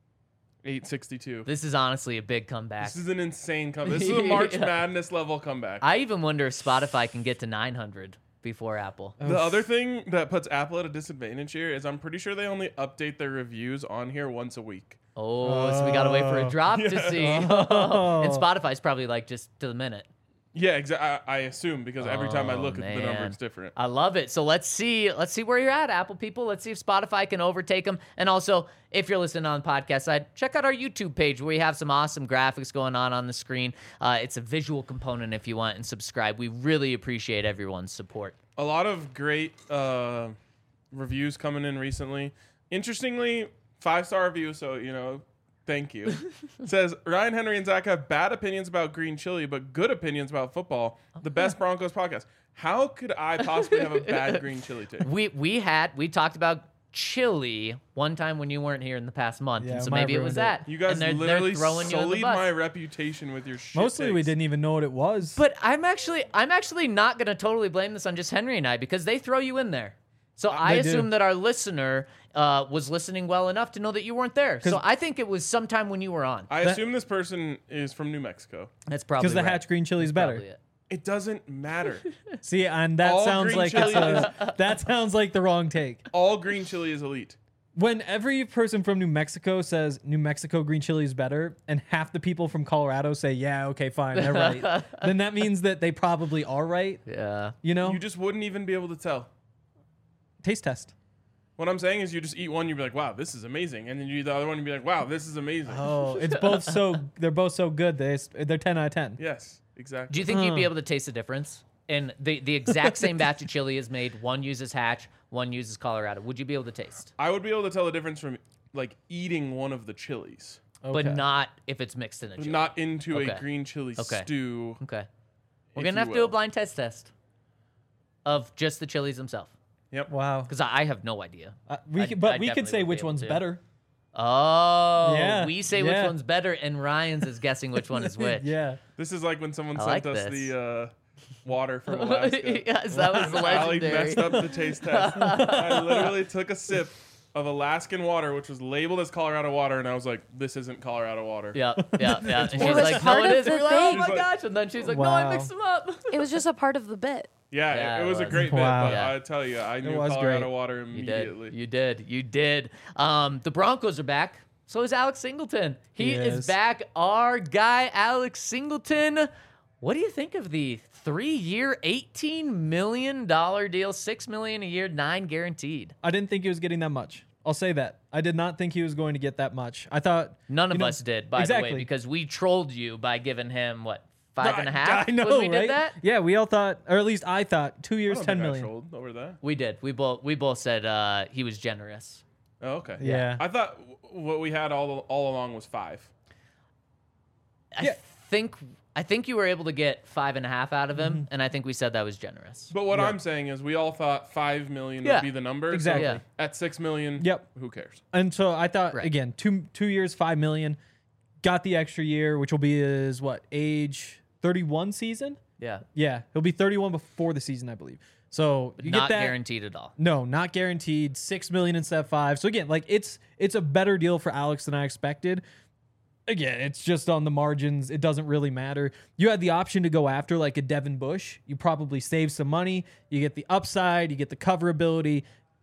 862. This is honestly a big comeback. This is an insane comeback. This is a March Yeah. Madness level comeback. I even wonder if Spotify can get to 900 before Apple. The other thing that puts Apple at a disadvantage here is I'm pretty sure they only update their reviews on here once a week. Oh, so we got to wait for a drop to see. And Spotify's probably like just to the minute. Yeah, exactly. I assume because every time I look at the number, man. it's different. I love it. So let's see where you're at, Apple people. Let's see if Spotify can overtake them. And also, if you're listening on the podcast side, check out our YouTube page where we have some awesome graphics going on the screen. It's a visual component if you want, and subscribe. We really appreciate everyone's support. A lot of great reviews coming in recently. Interestingly, 5-star review, so, thank you. It says, Ryan, Henry, and Zach have bad opinions about green chili, but good opinions about football. The best Broncos podcast. How could I possibly have a bad green chili take? We talked about chili one time when you weren't here in the past month, Yeah, and so might have maybe it was ruined it. that. You guys and they're literally throwing you in the sullied bus. my reputation with your shit Mostly we takes. didn't even know what it was. But I'm actually not gonna totally blame this on just Henry and I because they throw you in there. So I They do. assume that our listener was listening well enough to know that you weren't there. So 'Cause- I think it was sometime when you were on. I assume this person is from New Mexico. That's probably because the right. Hatch green chili is better. Probably it. It doesn't matter. See, and that All sounds green like chili that sounds like the wrong take. All green chili is elite. When every person from New Mexico says New Mexico green chili is better, and half the people from Colorado say, yeah, okay, fine, they're right, then that means that they probably are right. Yeah. You know? You just wouldn't even be able to tell. Taste test. What I'm saying is you just eat one, you'd be like, wow, this is amazing. And then you eat the other one, you'd be like, wow, this is amazing. Oh, it's both they're both so good. They're 10 out of 10. Yes, exactly. Do you think you'd be able to taste the difference? And the exact same batch of chili is made. One uses Hatch, one uses Colorado. Would you be able to taste? I would be able to tell the difference from like eating one of the chilies, But Okay. not if it's mixed in a chili. not into Okay. a green chili Okay. stew. Okay. We're if going to you have to do a will. blind test of just the chilies themselves. Yep. Wow. Because I have no idea. We I could definitely say would be which able one's to. better. Oh, Yeah, we say which yeah. one's better, and Ryan's is guessing which one is which. This is like when someone I sent like us this. the water from Alaska. Yes, that was Allie legendary. messed up the taste test. I literally took a sip of Alaskan water, which was labeled as Colorado water, and I was like, this isn't Colorado water. Yeah. And she's was like, no, part it of is. And the we're like, oh thing. my She's like- gosh. And then she's like, no, I Wow. mixed them up. It was just a part of the bit. Yeah, Yeah, it was a it great was. bit, Wow. but Yeah. I tell you, I knew was Colorado great. water You immediately. did. You did. The Broncos are back. So is Alex Singleton. He is is. back. Our guy, Alex Singleton. What do you think of the 3-year, $18 million deal, $6 million a year, 9 guaranteed? I didn't think he was getting that much. I'll say that. I did not think he was going to get that much. I thought None of you know, us did, by the exactly. way, because we trolled you by giving him, what, 5.5 I know, when we right? did that? Yeah, we all thought, or at least I thought, 2 I years, don't 10 think I million. trolled over that. We did. We both said he was generous. Oh, okay. Yeah. I thought what we had all along was 5. Yeah. I think you were able to get 5.5 out of him, and I think we said that was generous. But what I'm saying is, we all thought 5 million Yeah. would be the number. so Exactly. Yeah. At 6 million, Yep. who cares? And so I thought, Right. again, two years, 5 million. Got the extra year, which will be his, age 31 season? Yeah. Yeah, he'll be 31 before the season, I believe. So you Not get that. guaranteed at all. No, not guaranteed. 6 million instead of 5. So again, it's a better deal for Alex than I expected. Again, it's just on the margins. It doesn't really matter. You had the option to go after like a Devin Bush. You probably save some money. You get the upside. You get the coverability.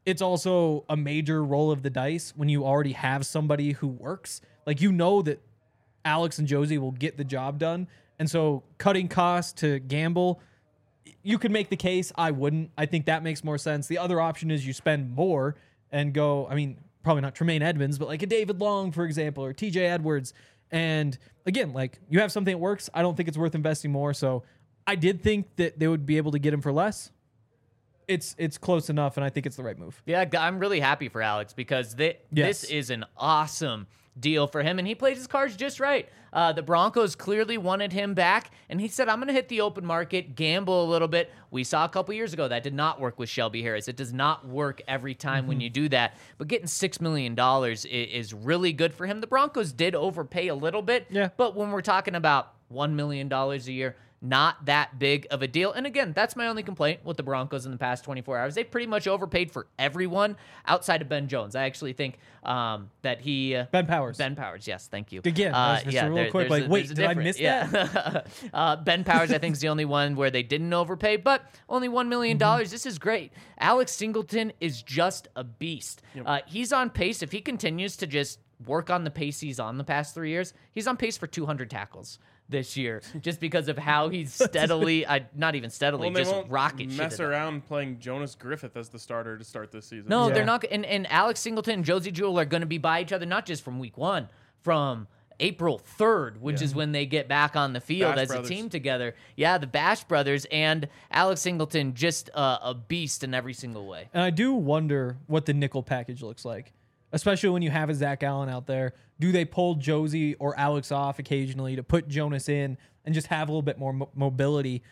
it's also a major roll of the dice when you already have somebody who works. Like, you know that Alex and Josie will get the job done. And so cutting costs to gamble, you could make the case. I wouldn't. I think that makes more sense. The other option is you spend more and go, I mean, probably not Tremaine Edmonds, but like a David Long, for example, or TJ Edwards. And again, like, you have something that works. I don't think it's worth investing more. So I did think that they would be able to get him for less. It's close enough, and I think it's the right move. Yeah, I'm really happy for Alex because this is an awesome deal for him, and he played his cards just right. The Broncos clearly wanted him back, and he said, I'm going to hit the open market, gamble a little bit. We saw a couple years ago that did not work with Shelby Harris. It does not work every time when you do that, but getting $6 million is really good for him. The Broncos did overpay a little bit, but when we're talking about $1 million a year, not that big of a deal. And again, that's my only complaint with the Broncos in the past 24 hours. They pretty much overpaid for everyone outside of Ben Jones. I actually think that he... Ben Powers. Ben Powers, yes, thank you. Again, real quick, like, wait, did I miss that? Ben Powers, I think, is the only one where they didn't overpay, but only $1 million. This is great. Alex Singleton is just a beast. He's on pace. If he continues to just work on the pace he's on the past 3 years, he's on pace for 200 tackles this year, just because of how he's steadily, not even steadily, Well, just rocket shit. Mess around playing Jonas Griffith as the starter to start this season. No, they're not. And Alex Singleton and Josie Jewell are going to be by each other, not just from week 1, from April 3rd, which is when they get back on the field Bash as brothers. a team together. Yeah, the Bash brothers and Alex Singleton, just a beast in every single way. And I do wonder what the nickel package looks like, especially when you have a Zach Allen out there. Do they pull Josie or Alex off occasionally to put Jonas in and just have a little bit more mobility?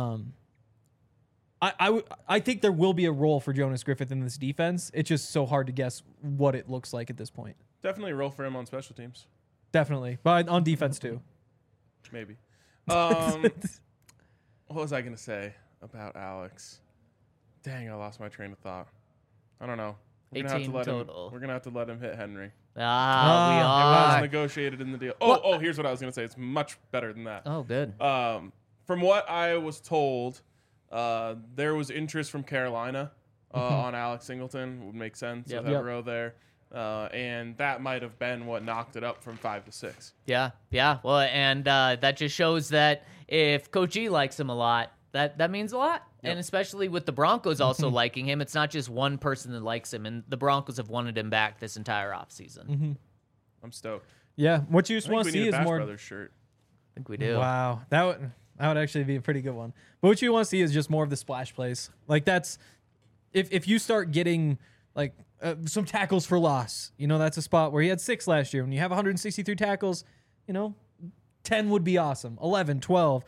I think there will be a role for Jonas Griffith in this defense. It's just so hard to guess what it looks like at this point. Definitely a role for him on special teams. Definitely. But on defense too. Maybe. What was I going to say about Alex? Dang, I lost my train of thought. I don't know. We're gonna 18 total. We're gonna have to let him hit Henry. We It are. was negotiated in the deal. Oh, here's what I was gonna say. It's much better than that. Oh, good. From what I was told, there was interest from Carolina on Alex Singleton. Would make sense with Evero there, and that might have been what knocked it up from 5 to 6. Yeah. Well, and that just shows that if Coach E likes him a lot, that means a lot. And especially with the Broncos also liking him, it's not just one person that likes him, and the Broncos have wanted him back this entire offseason. I'm stoked. Yeah. What you just I think want we to see need a is Bash more. Brothers shirt. I think we do. Wow, that would actually be a pretty good one. But what you want to see is just more of the splash plays. Like, that's if you start getting like some tackles for loss, that's a spot where he had 6 last year. When you have 163 tackles, 10 would be awesome. 11, 12.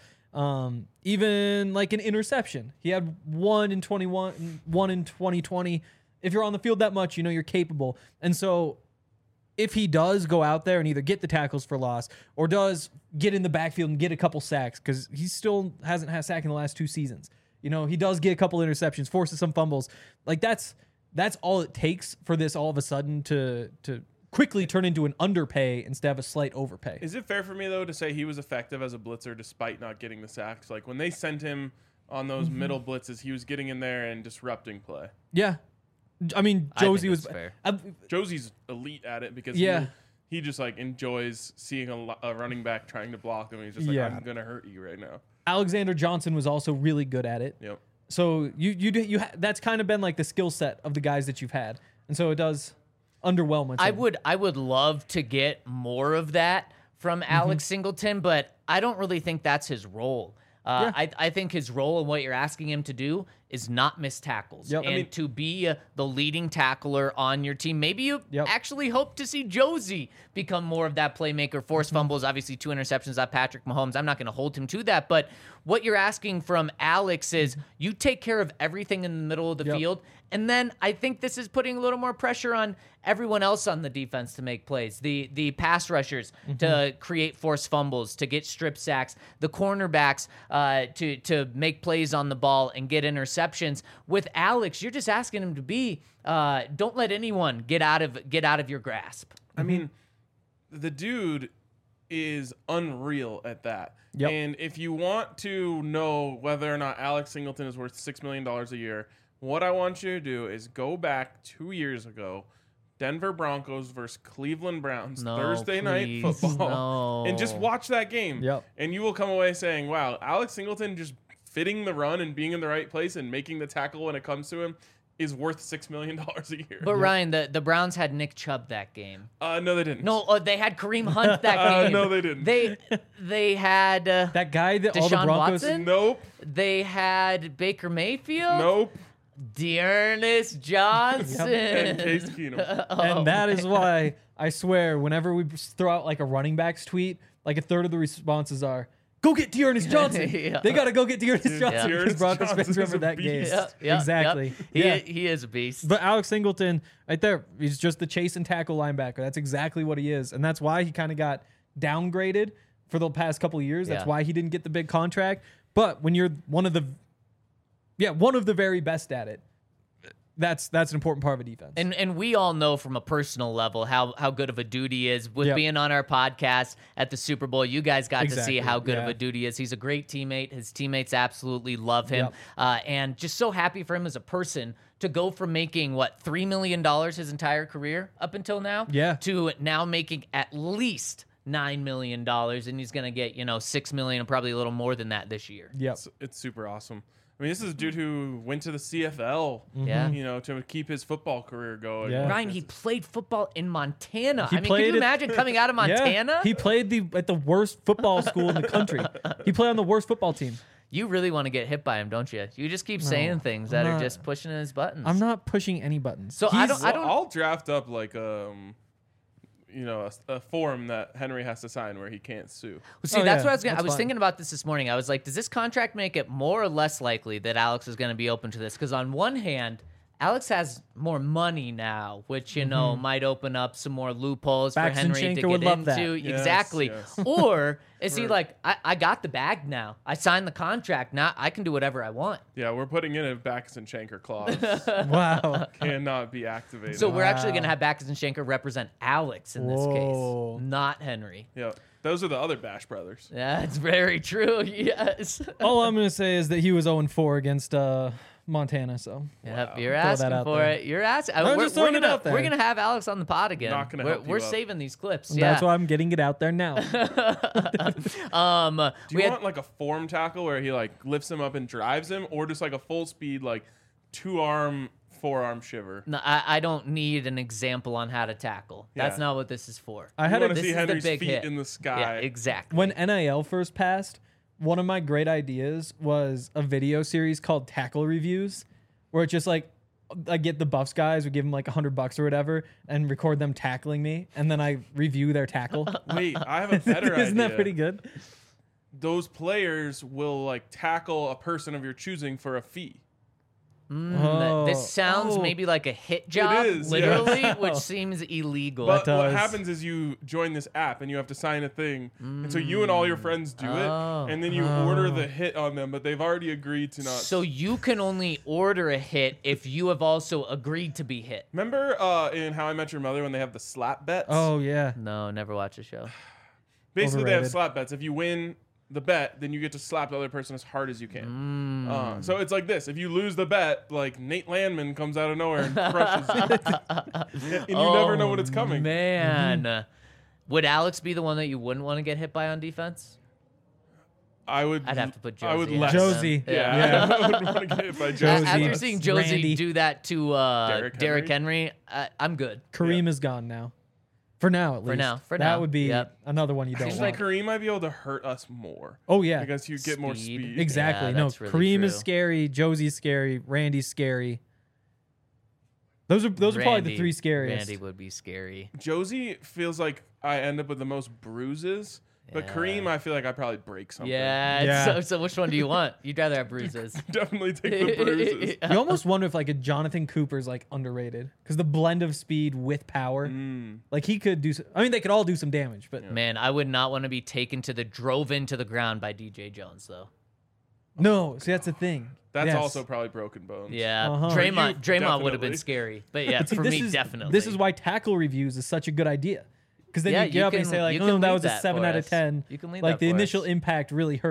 Even like an interception. He had 1 in 21, 1 in 2020. If you're on the field that much, you're capable. And so if he does go out there and either get the tackles for loss or does get in the backfield and get a couple sacks, because he still hasn't had a sack in the last 2 seasons. He does get a couple interceptions, forces some fumbles. Like, that's all it takes for this all of a sudden to quickly turn into an underpay instead of a slight overpay. Is it fair for me, though, to say he was effective as a blitzer despite not getting the sacks? Like, when they sent him on those middle blitzes, he was getting in there and disrupting play. Yeah. I mean, I think Josie was that's fair. Josie's elite at it because he just, like, enjoys seeing a running back trying to block him. And he's just like, I'm going to hurt you right now. Alexander Johnson was also really good at it. Yep. So that's kind of been like the skill set of the guys that you've had. And so it does underwhelm. I would love to get more of that from Alex Singleton, but I don't really think that's his role. I think his role and what you're asking him to do is not miss tackles and to be the leading tackler on your team. Maybe you actually hope to see Josie become more of that playmaker, force fumbles, obviously 2 interceptions at Patrick Mahomes. I'm not going to hold him to that, but what you're asking from Alex is you take care of everything in the middle of the field, and then I think this is putting a little more pressure on everyone else on the defense to make plays. The pass rushers to create forced fumbles, to get strip sacks, the cornerbacks to make plays on the ball and get interceptions. With Alex, you're just asking him to be don't let anyone get out of your grasp. I mean, the dude is unreal at that. Yep. And if you want to know whether or not Alex Singleton is worth $6 million a year, What I want you to do is go back 2 years ago, Denver Broncos versus Cleveland Browns, No, Thursday night please, football, no. and just watch that game. Yep. And you will come away saying, wow, Alex Singleton just fitting the run and being in the right place and making the tackle when it comes to him is worth $6 million a year. But Ryan, the Browns had Nick Chubb that game. No, they didn't. No, they had Kareem Hunt that game. No, they didn't. They had That guy that all the Deshaun Broncos. Watson? Nope. they had Baker Mayfield. Nope. Dearness Johnson. And Case Keenum. And that is why I swear, whenever we throw out like a running backs tweet, like a third of the responses are, "Go get Dearness Johnson." Yeah. They got to go get Dearness Johnson because Dearness Broncos fans Johnson is remember a that game. beast. Exactly. Yep. He is a beast. But Alex Singleton, right there, he's just the chase and tackle linebacker. That's exactly what he is. And that's why he kind of got downgraded for the past couple of years. That's Yeah. why he didn't get the big contract. But when you're one of the very best at it, that's an important part of a defense. And we all know from a personal level how good of a dude he is. With Yep. being on our podcast at the Super Bowl, you guys got to see Exactly, how good of yeah. a dude he is. He's a great teammate. His teammates absolutely love him. Yep. And just so happy for him as a person to go from making, $3 million his entire career up until now? Yeah. To now making at least $9 million. And he's going to get, $6 million and probably a little more than that this year. Yep. It's super awesome. I mean, this is a dude who went to the CFL, Yeah. to keep his football career going. Yeah. Ryan, he played football in Montana. He can played you it- imagine coming out of Montana? Yeah. He played at the worst football school in the country. He played on the worst football team. You really want to get hit by him, don't you? You just keep saying things that I'm are not. just pushing his buttons. I'm not pushing any buttons. So I don't. I'll draft up like a form that Henry has to sign where he can't sue. See, Oh, that's yeah, what I was. that's I was fine. thinking about this morning. I was like, does this contract make it more or less likely that Alex is going to be open to this? Because on one hand, Alex has more money now, which might open up some more loopholes for Baxton Henry to Schenker would get love that. into. Yes, Exactly. yes. Or is he like, I got the bag now. I signed the contract. Now I can do whatever I want. Yeah, we're putting in a Baxton Schenker clause. Wow. Cannot be activated. So we're actually going to have Baxton Schenker represent Alex in this Whoa. case, not Henry. yeah, those are the other Bash brothers. That's very true. Yes. All I'm going to say is that he was 0-4 against Montana. So Yep, you're Throw that asking out for there. it. You're asking. I'm just throwing it out there. We're gonna have Alex on the pod again. Not gonna we're help you we're up. saving these clips. that's Yeah. why I'm getting it out there now. Do we you had, want like a form tackle where he like lifts him up and drives him, or just like a full speed like 2-arm, 4-arm shiver? no, I don't need an example on how to tackle. That's Yeah. not what this is for. I I had want a to this see is the Henry's big feet hit. in the Yeah, sky. exactly. when NIL first passed, one of my great ideas was a video series called Tackle Reviews, where it's just like I get the Buffs guys, we give them like $100 or whatever, and record them tackling me, and then I review their tackle. Wait, I have a better idea. Isn't that pretty good? Those players will like tackle a person of your choosing for a fee. This sounds Oh. maybe like a hit job, is, literally, yes. which seems illegal. But what does. happens is you join this app and you have to sign a thing, and so you and all your friends do Oh. it, and then you order the hit on them, but they've already agreed to not. So you can only order a hit if you have also agreed to be hit. Remember in How I Met Your Mother when they have the slap bets? Oh yeah. No, never watch a show. Basically, they have overrated. slap bets. If you win the bet, then you get to slap the other person as hard as you can. So it's like this: if you lose the bet, like Nate Landman comes out of nowhere and crushes you, and you never know when it's coming. Man, would Alex be the one that you wouldn't want to get hit by on defense? I would. I'd have to put Josie. I would in less. there. Josie. Yeah, I would want to get hit by Josie. After less. seeing Josie Randy. do that to Derrick Henry, I'm good. Kareem is gone now. For now, at least. For that now. would be Yep. another one you don't Seems want. like Kareem might be able to hurt us more. Oh yeah, Because you get more Speed. speed. exactly. Yeah, No, that's really Kareem is true. scary. Josie's scary. Randy's scary. Those are probably the three scariest. Randy would be scary. Josie feels like I end up with the most bruises, but Yeah. Kareem, I feel like I probably break something. Yeah. Yeah. So which one do you want? You'd rather have bruises. Definitely take the bruises. You almost wonder if like a Jonathan Cooper's like underrated because the blend of speed with power, like he could do. I mean, they could all do some damage, but Man, I would not want to be drove into the ground by DJ Jones though. no. See, that's the thing. That's Yes. also probably broken bones. Yeah, Uh-huh. Draymond You would have been definitely. scary, but yeah, But see, for this me is, definitely. This is why tackle reviews is such a good idea. Because then Yeah, you get you up and can- say like, you oh, can that lead was a that 7 for out of us. 10. You can lead like that the for initial us. impact really hurt.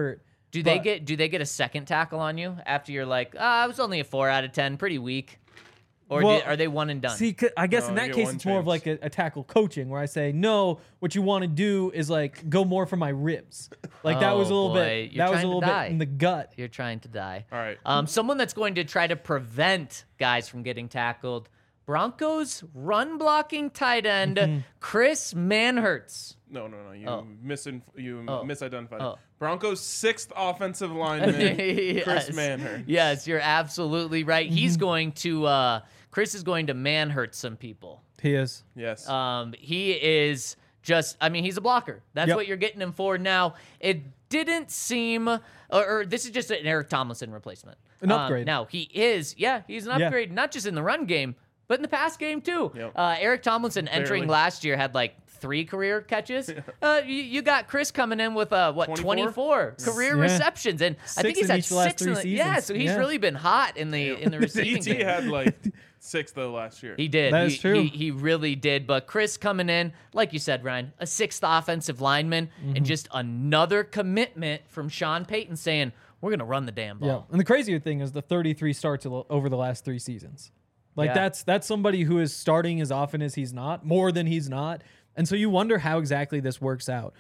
Do they But- get a second tackle on you after you're like, I was only a 4 out of 10, pretty weak? Or Well, are they one and done? See, I guess No, in you that get case, one it's more of chance. like a tackle coaching where I say, no, what you want to do is like go more for my ribs. Like that was a Oh, little boy. bit, You're that was a trying to little die. bit in the gut. You're trying to die. All right. Someone that's going to try to prevent guys from getting tackled. Broncos run blocking tight end Mm-hmm. Chris Manhertz. No. You Oh. misidentified. Oh. Broncos' 6th offensive lineman, Chris Manhertz. Yes, you're absolutely right. He's Mm-hmm. going to Chris is going to Manhertz some people. He is. Yes. He is just, I mean, he's a blocker. That's Yep. what you're getting him for. Now, it didn't seem, or this is just an Eric Tomlinson replacement. An upgrade. Now, he's an Yeah. upgrade, not just in the run game, but in the pass game too. Yep. Eric Tomlinson entering Barely. last year had like 3 career catches. You got Chris coming in with 24 career Yeah. receptions, and I think 6 he's in had each of the last 6 3 in the, yeah. seasons. So he's Yeah. really been hot in the receiving ET game. had like 6 though last year. He did. That is true. He really did. But Chris coming in, like you said, Ryan, a 6th offensive lineman, Mm-hmm. and just another commitment from Sean Payton saying, we're going to run the damn ball. Yeah. And the crazier thing is the 33 starts over the last 3 seasons. Like Yeah. that's somebody who is starting as often as he's not, more than he's not. And so you wonder how exactly this works out.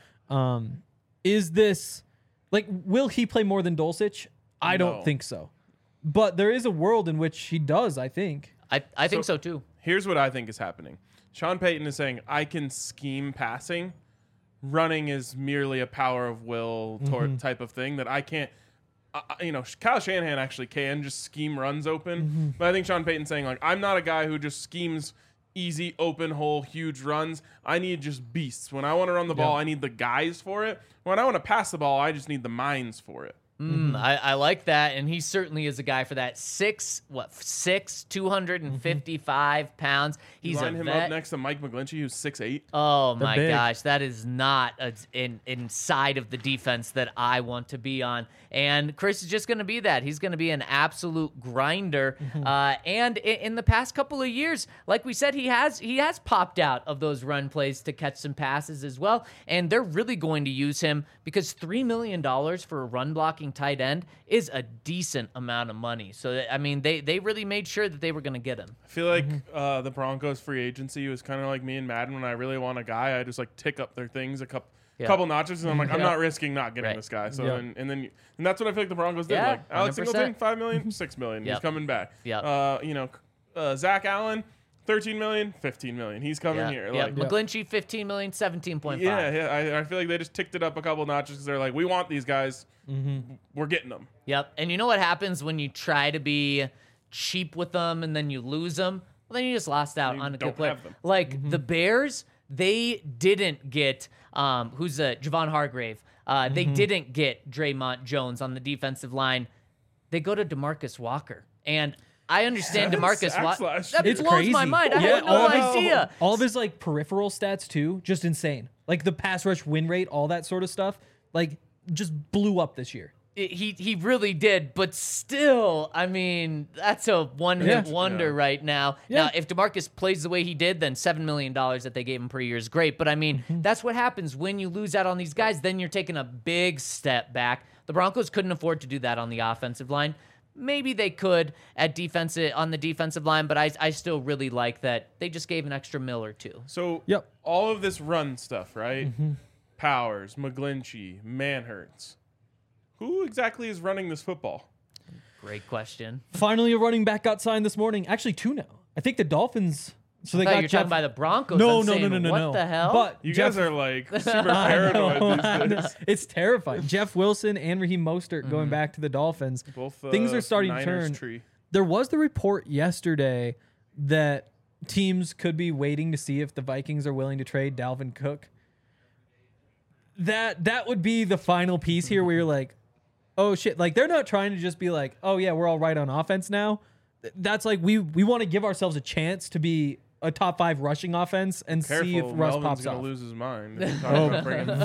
Is this like, will he play more than Dulcich? I No. don't think so. But there is a world in which he does, I think. I think so too. Here's what I think is happening. Sean Payton is saying, I can scheme passing. Running is merely a power of will type of thing that I can't. Kyle Shanahan actually can just scheme runs open. But I think Sean Payton's saying, like, I'm not a guy who just schemes easy, open hole, huge runs. I need just beasts. When I want to run the ball, I need the guys for it. When I want to pass the ball, I just need the minds for it. I like that, and he certainly is a guy for that. 6'6", 255 pounds. He's Line a him vet. up next to Mike McGlinchey, who's 6'8". Oh my big. gosh, that is not inside of the defense that I want to be on. And Chris is just going to be that. He's going to be an absolute grinder. And in the past couple of years, like we said, he has popped out of those run plays to catch some passes as well. And they're really going to use him because $3 million for a run blocking tight end is a decent amount of money. So I mean, they really made sure that they were going to get him. I feel like the Broncos free agency was kind of like me and Madden. When I really want a guy, I just like tick up their things a couple notches, and I'm like, I'm not risking not getting Right. this guy. So Yeah. and that's what I feel like the Broncos did. Yeah, Like Alex 100%. Singleton, $5 million, $6 million. He's Yep. coming back. Yep. Zach Allen, $13 million, $15 million. He's coming here. Yeah. Like, McGlinchey, $15 million, 17.5. yeah. I feel like they just ticked it up a couple notches because they're like, we want these guys. We're getting them. Yep. And you know what happens when you try to be cheap with them and then you lose them? Well, then you just lost out You on a don't good player. have them. Like the Bears, they didn't get who's Javon Hargrave. They didn't get Draymond Jones on the defensive line. They go to DeMarcus Walker. And I understand 7 DeMarcus sacks Walker. last That year. It's blows crazy. my mind. I Yeah, had no idea. All of his like peripheral stats too, just insane. Like the pass rush win rate, all that sort of stuff, like just blew up this year. He really did, but still, I mean, that's a one-hit Yeah. wonder Yeah. right now. Yeah. Now, if DeMarcus plays the way he did, then $7 million that they gave him per year is great. But I mean, that's what happens when you lose out on these guys. Then you're taking a big step back. The Broncos couldn't afford to do that on the offensive line. Maybe they could on the defensive line, but I still really like that they just gave an extra $1 or $2. So Yep. all of this run stuff, right? Powers, McGlinchey, Manhertz. Who exactly is running this football? Great question. Finally, a running back got signed this morning. Actually, 2 now. I think the Dolphins. So they I thought got you were talking by the Broncos. No, I'm no, saying, no. What the hell? But You Jeff, guys are like super paranoid these days. it's terrifying. Jeff Wilson and Raheem Mostert going back to the Dolphins. Both Things are starting to Niners turn. tree. There was the report yesterday that teams could be waiting to see if the Vikings are willing to trade Dalvin Cook. That would be the final piece here where you're like, oh shit, like they're not trying to just be like, oh yeah, we're all right on offense now. That's like we want to give ourselves a chance to be a top 5 rushing offense and Careful, see if Russ Melvin's pops gonna off. lose his mind. If you talk about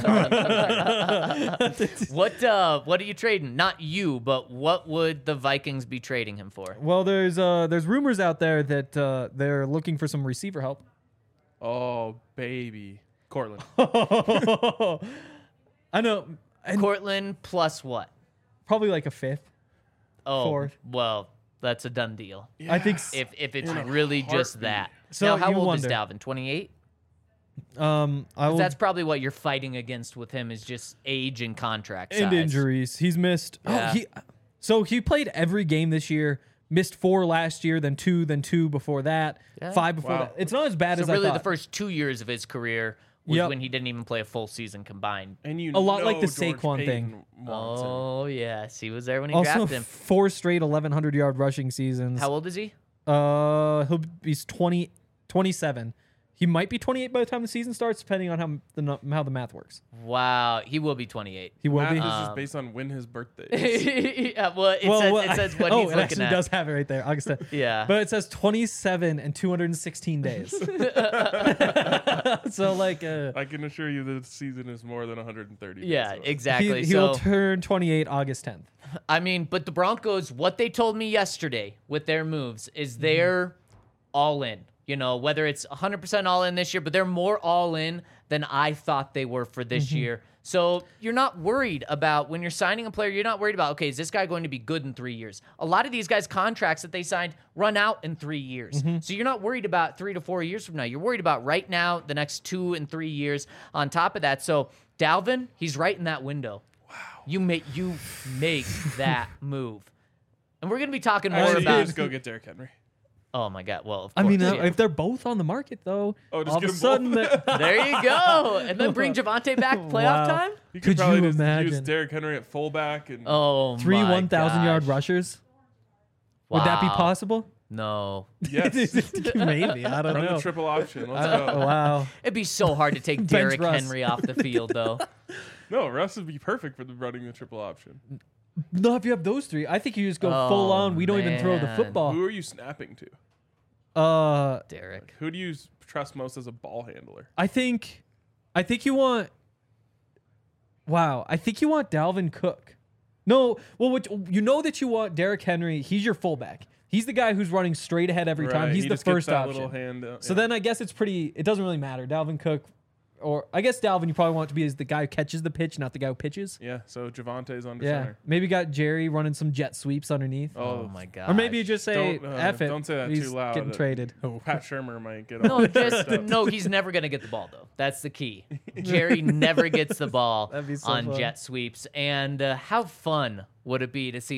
bringing What are you trading? Not you, but what would the Vikings be trading him for? Well, there's rumors out there that they're looking for some receiver help. Oh baby, Cortland. I know. And Cortland plus what? probably like a fifth. Oh, Fourth. well, that's a done deal. I think Yeah. If it's In a really just heartbeat. that. So now, how you old is wonder. Dalvin? 28? I will, That's probably what you're fighting against with him is just age and contract size. and injuries. He's missed. Yeah. He played every game this year. Missed 4 last year, then 2 before that, Yeah. 5 before Wow. that. It's not as bad So as really, I the thought. first 2 years of his career was Yep. when he didn't even play a full season combined. And you A lot like the George Saquon Payton thing. wants him. Oh, yes. He was there when he Also, drafted him. 4 straight 1,100-yard rushing seasons. How old is he? He's 27. He might be 28 by the time the season starts, depending on how the math works. Wow. He will be 28. He will Math be. is just based on when his birthday is. Yeah, well, it says what oh, he's it looking actually at. does have it right there. August 10th. Yeah. But it says 27 and 216 days. So like, I can assure you the season is more than 130 days. Yeah, though. exactly. he So, will turn 28 August 10th. I mean, but the Broncos, what they told me yesterday with their moves is they're all in. You know, whether it's 100% all in this year, but they're more all in than I thought they were for this year. So you're not worried about when you're signing a player, you're not worried about, okay, is this guy going to be good in 3 years? A lot of these guys' contracts that they signed run out in 3 years. So you're not worried about 3 to 4 years from now. You're worried about right now, the next 2 and 3 years on top of that. So Dalvin, he's right in that window. Wow. You make that move. And we're going to be talking more Actually, about... just go get Derrick Henry. Oh my God! Well, of I course, mean, yeah. if they're both on the market, though, Oh, just all of get a 'em sudden, both. there you go, and then bring Javonte back playoff Wow. time. You Could probably you just use imagine? Derrick Henry at fullback and Oh, 3 my 1,000-yard gosh. rushers. Would that be Wow. possible? No, yes, Maybe. I don't run know. the triple option. Let's go. Wow. it'd be so hard to take Bench Derrick Russ. Henry off the field, though. No, Russ would be perfect for the running the triple option. No, if you have those 3, I think you just go Oh, full on. We don't even throw the man. football. Who are you snapping to? Derrick. Who do you trust most as a ball handler? I think you want. Wow, I think you want Dalvin Cook. No, well, you know that you want Derrick Henry. He's your fullback. He's the guy who's running straight ahead every time. Right, He's he the just gets first that option. little hand, So yeah. then I guess it doesn't really matter. Dalvin Cook, or I guess Dalvin, you probably want it to be as the guy who catches the pitch, not the guy who pitches. Yeah, so Javonte's under Yeah, center. maybe got Jerry running some jet sweeps underneath. Oh my God. Or maybe you just say, Don't, F it. don't say that He's too loud. getting traded. Pat Shermer might get No, all just up. no. He's never gonna get the ball though. That's the key. Jerry never gets the ball That'd be so on fun. jet sweeps. And how fun would it be to see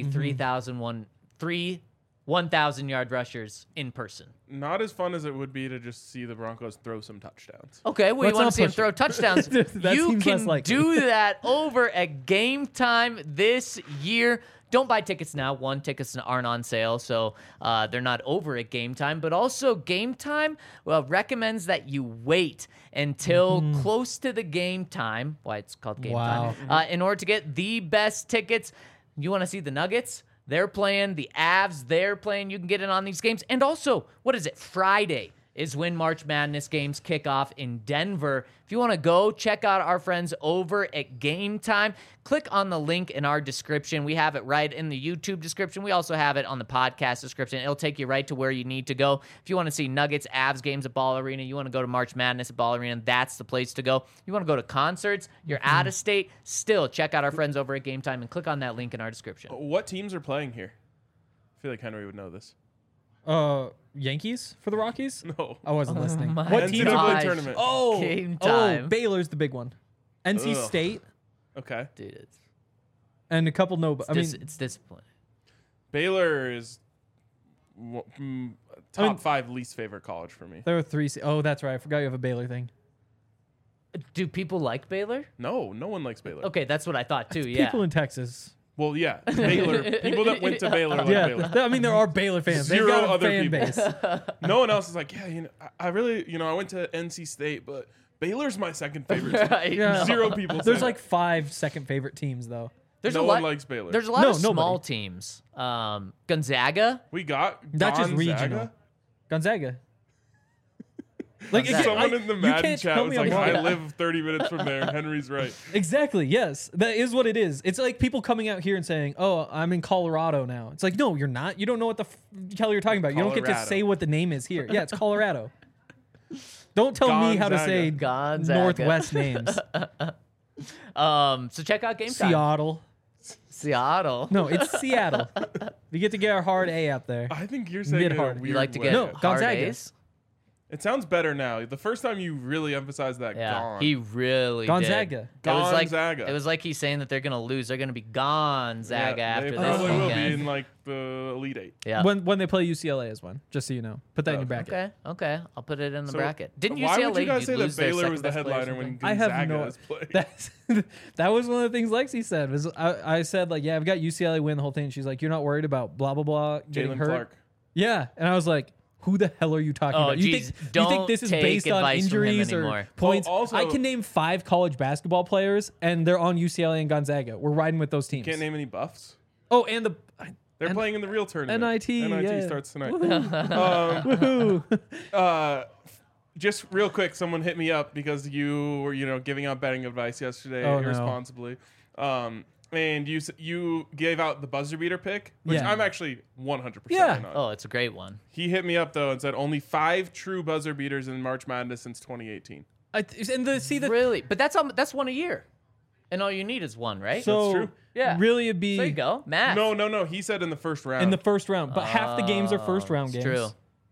1,000-yard rushers in person? Not as fun as it would be to just see the Broncos throw some touchdowns. Okay, well, Let's you want not to see him push throw it. touchdowns. That You seems less can likely. do that over at Game Time this year. Don't buy tickets now. One, tickets aren't on sale, so they're not over at Game Time. But also, Game Time recommends that you wait until close to the game time. Why it's called Game Wow. Time. In order to get the best tickets. You want to see the Nuggets? They're playing. The Avs, they're playing. You can get in on these games. And also, what is it? Friday is when March Madness games kick off in Denver. If you want to go, check out our friends over at Game Time. Click on the link in our description. We have it right in the YouTube description. We also have it on the podcast description. It'll take you right to where you need to go. If you want to see Nuggets, Avs games at Ball Arena, you want to go to March Madness at Ball Arena, that's the place to go. You want to go to concerts, you're out of state, still check out our friends over at Game Time and click on that link in our description. What teams are playing here? I feel like Henry would know this. Yankees for the Rockies? No. I wasn't listening. My What NCAA teams gosh. are tournament. Oh, Game Time. Oh, Baylor's the big one. NC Ugh. State Okay. Dude, it's, and a couple no. I mean, it's disappointing. Baylor is top mean- 5 least favorite college for me. there were 3. Oh, that's right. I forgot you have a Baylor thing. Do people like Baylor? No one likes Baylor. Okay, that's what I thought too. Yeah. People in Texas. Well, yeah, Baylor. People that went to Baylor like Yeah, Baylor. I mean there are Baylor fans. They've Zero got a other fan people. base. No one else is like, yeah, I really, I went to NC State, but Baylor's my second favorite team. Right, Yeah. no. Zero people. There's say like that. 5 second favorite teams though. There's no a one lot. likes Baylor. There's a lot No, of small nobody. teams. Gonzaga. We got That's just Gonzaga. regional. Gonzaga. Like Gonzaga. Someone in the you Madden can't chat tell was me I'm like, wrong. I live 30 minutes from there. Henry's right. Exactly. Yes, that is what it is. It's like people coming out here and saying, "Oh, I'm in Colorado now." It's like, no, you're not. You don't know what the hell you're talking about. You don't get to Colorado. say what the name is here. Yeah, it's Colorado. Don't tell me how to say Gonzaga. Northwest names. So check out Game Time. Seattle. Seattle. No, it's Seattle. We get to get our hard A out there. I think you're saying it in a Mid-hard. weird You like to way. get No, hard Gonzaga. A's? It sounds better now. The first time you really emphasized that, Yeah, gone. he really Gonzaga. did. It was like Gonzaga. it was like he's saying that they're gonna lose. They're gonna be Gonzaga Yeah, after they this probably will be weekend. in like the Elite Eight. Yeah. When they play UCLA as one, just so you know. Put that in your bracket. Okay. I'll put it in the So, bracket. Didn't why UCLA would you guys say that lose their Baylor was the second-best player or headliner when something? I Gonzaga have no. has played? That was one of the things Lexi said. Was I said like, yeah, I've got UCLA win the whole thing. And she's like, you're not worried about blah blah blah getting Jalen hurt. Clark. Yeah, and I was like, who the hell are you talking Oh, about? geez, You think don't this is take based on advice from him injuries or anymore. points? Well, also- I can name 5 college basketball players, and they're on UCLA and Gonzaga. We're riding with those teams. Can't name any buffs. Oh, and the They're playing in the real tournament. NIT, yeah. starts tonight. woohoo. Just real quick, someone hit me up because you were, giving out betting advice yesterday Oh, no. irresponsibly. And you gave out the buzzer beater pick, which Yeah. I'm actually 100% Yeah. in on. Oh, it's a great one. He hit me up though and said only 5 true buzzer beaters in March Madness since 2018. Really? But that's one a year. And all you need is one, right? So true. Yeah. really it'd be there you go. Math. No. He said in the first round. in the first round, but half the games are first round it's games. true.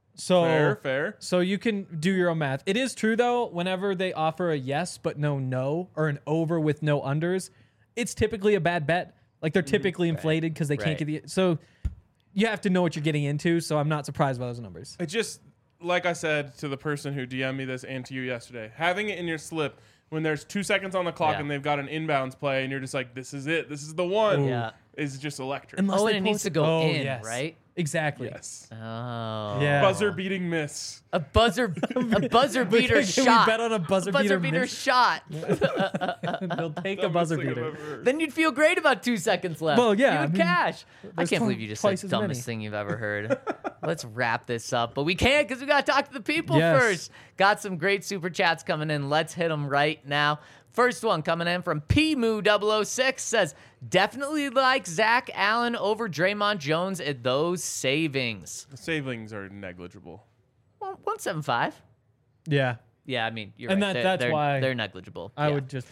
So fair. So you can do your own math. It is true though, whenever they offer a yes but no or an over with no unders, it's typically a bad bet. Like they're typically inflated because they can't Right. get the so you have to know what you're getting into, so I'm not surprised by those numbers. It just, like I said to the person who DM'd me this and to you yesterday, having it in your slip when there's 2 seconds on the clock Yeah. and they've got an inbounds play and you're just like, this is it. This is the one. Yeah. Is just electric. Unless Oh, they and it needs post to go in, yes. right? Exactly. Yes. Oh. Yeah. Buzzer beating miss. A buzzer beater Can shot. we bet on a buzzer beater miss? shot. They'll take a buzzer Dumbest thing I've beater. ever heard. Then you'd feel great about 2 seconds left. Well, yeah, You would I mean, cash. I there's can't believe you just twice said as dumbest many. thing you've ever heard. Let's wrap this up. But we can't because we got to talk to the people Yes. first. Got some great super chats coming in. Let's hit them right now. First one coming in from PMU006 says, definitely like Zach Allen over Draymond Jones at those savings. The savings are negligible. Well, 175. Yeah. Yeah, I mean, you're And right. that's they're, why they're negligible. I Yeah. would just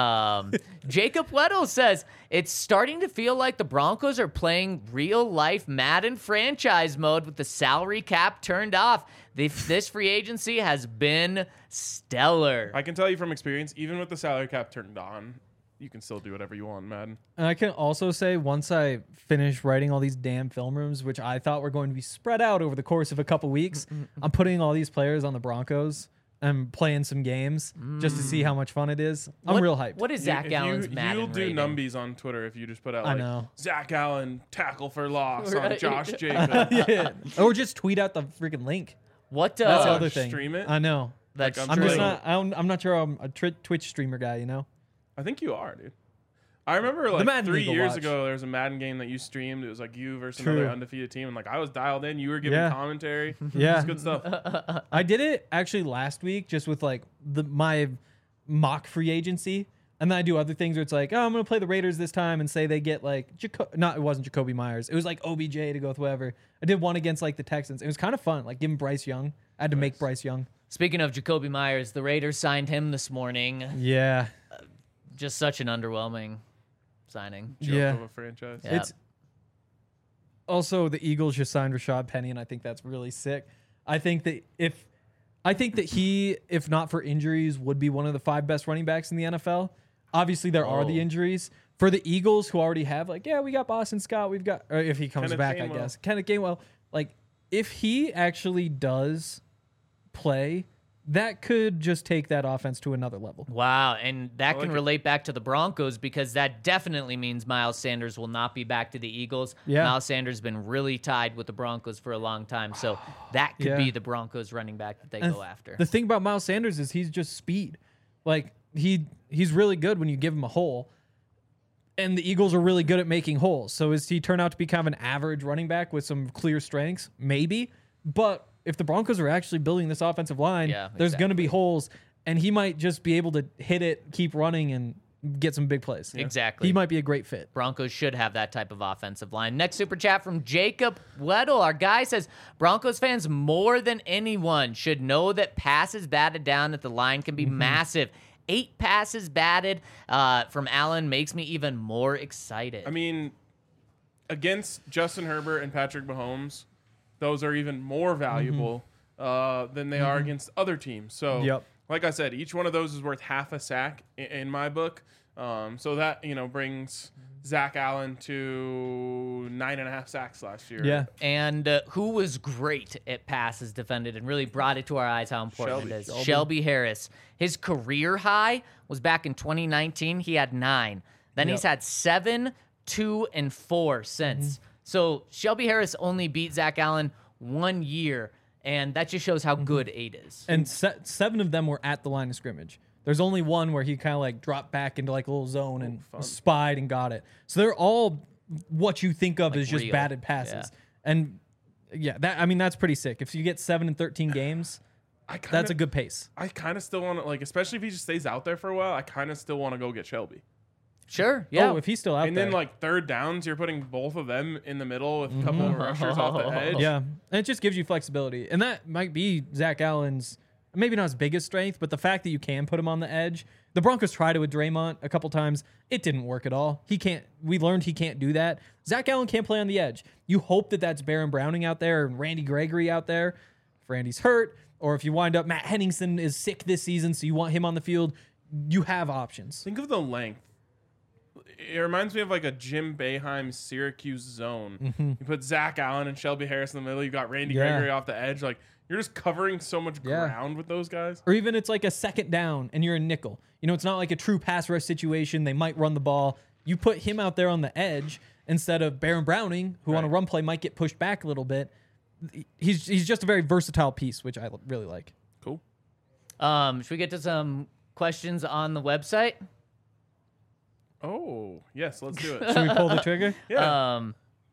Jacob Weddle says it's starting to feel like the Broncos are playing real life Madden franchise mode with the salary cap turned off. This free agency has been stellar. I can tell you from experience, even with the salary cap turned on, you can still do whatever you want, Madden. And I can also say once I finish writing all these damn film rooms, which I thought were going to be spread out over the course of a couple weeks, I'm putting all these players on the Broncos and playing some games just to see how much fun it is. I'm real hyped. What is Zach If Allen's Madden You'll do rating? numbies on Twitter if you just put out I like know. Zach Allen tackle for loss on Right. Josh Jacobs. Yeah. Or just tweet out the freaking link. What That's the Oh, other thing. stream it? I know. That's Like, I'm true. just not. I'm not sure. I'm a Twitch streamer guy. You know. I think you are, dude. I remember like Madden 3 League will years watch. ago, there was a Madden game that you streamed. It was like you versus True. another undefeated team, and like I was dialed in. You were giving Yeah. commentary. Yeah. It's good stuff. I did it actually last week, just with like my mock free agency, and then I do other things where it's like, oh, I'm gonna play the Raiders this time, and say they get like it wasn't Jacoby Myers. It was like OBJ to go with whoever. I did one against like the Texans. It was kind of fun, like giving Bryce Young. I had to make Bryce Young. Speaking of Jacoby Myers, the Raiders signed him this morning. Yeah. Just such an underwhelming signing. Joke Yeah. of a franchise. Yeah. It's also the Eagles just signed Rashad Penny, and I think that's really sick. I think that he, if not for injuries, would be one of the 5 best running backs in the NFL. Obviously, there are the Oh. injuries for the Eagles, who already have like, yeah, we got Boston Scott, we've got, or if he comes Kenneth back, Gainwell. I guess Kenneth Gainwell. Like, if he actually does play, that could just take that offense to another level. Wow, and that like can it. relate back to the Broncos because that definitely means Miles Sanders will not be back to the Eagles. Yeah. Miles Sanders has been really tied with the Broncos for a long time, so that could Yeah. be the Broncos running back that they And go after. The thing about Miles Sanders is he's just speed. Like he's really good when you give him a hole. And the Eagles are really good at making holes. So is he turn out to be kind of an average running back with some clear strengths? Maybe. But if the Broncos are actually building this offensive line, Yeah, there's going to be exactly. holes, and he might just be able to hit it, keep running, and get some big plays. Exactly. He might be a great fit. Broncos should have that type of offensive line. Next super chat from Jacob Weddle. Our guy says, Broncos fans more than anyone should know that passes batted down at the line can be massive. 8 passes batted from Allen makes me even more excited. I mean, against Justin Herbert and Patrick Mahomes, those are even more valuable than they are against other teams. So, Yep. like I said, each one of those is worth half a sack in my book. So that, brings Zach Allen to 9.5 sacks last year. Yeah. And who was great at passes defended and really brought it to our eyes how important it is? Shelby Harris. His career high was back in 2019. He had 9. Then he's had 7, 2, and 4 since. So Shelby Harris only beat Zach Allen 1 year, and that just shows how good 8 is. And 7 of them were at the line of scrimmage. There's only one where he kind of like dropped back into like a little zone and spied and got it. So they're all what you think of as just real. batted passes. Yeah. And yeah, that's pretty sick. If you get 7 in 13 games, that's a good pace. I kind of still want to, like, especially if he just stays out there for a while, I kind of still want to go get Shelby. Sure, yeah. Oh, if he's still out And there. then, like, third downs, you're putting both of them in the middle with a couple of rushers off the edge. Yeah, and it just gives you flexibility. And that might be Zach Allen's, maybe not his biggest strength, but the fact that you can put him on the edge. The Broncos tried it with Draymond a couple times. It didn't work at all. We learned he can't do that. Zach Allen can't play on the edge. You hope that that's Baron Browning out there and Randy Gregory out there. If Randy's hurt, or if you wind up Matt Henningsen is sick this season, so you want him on the field, you have options. Think of the length. It reminds me of like a Jim Boeheim Syracuse zone. You put Zach Allen and Shelby Harris in the middle. You got Randy Gregory off the edge. Like, you're just covering so much ground with those guys. Or even it's like a second down and you're a nickel. It's not like a true pass rush situation. They might run the ball. You put him out there on the edge instead of Baron Browning, who on a run play might get pushed back a little bit. He's just a very versatile piece, which I really like. Cool. Should we get to some questions on the website? Oh, yes, let's do it. Should we pull the trigger? Yeah.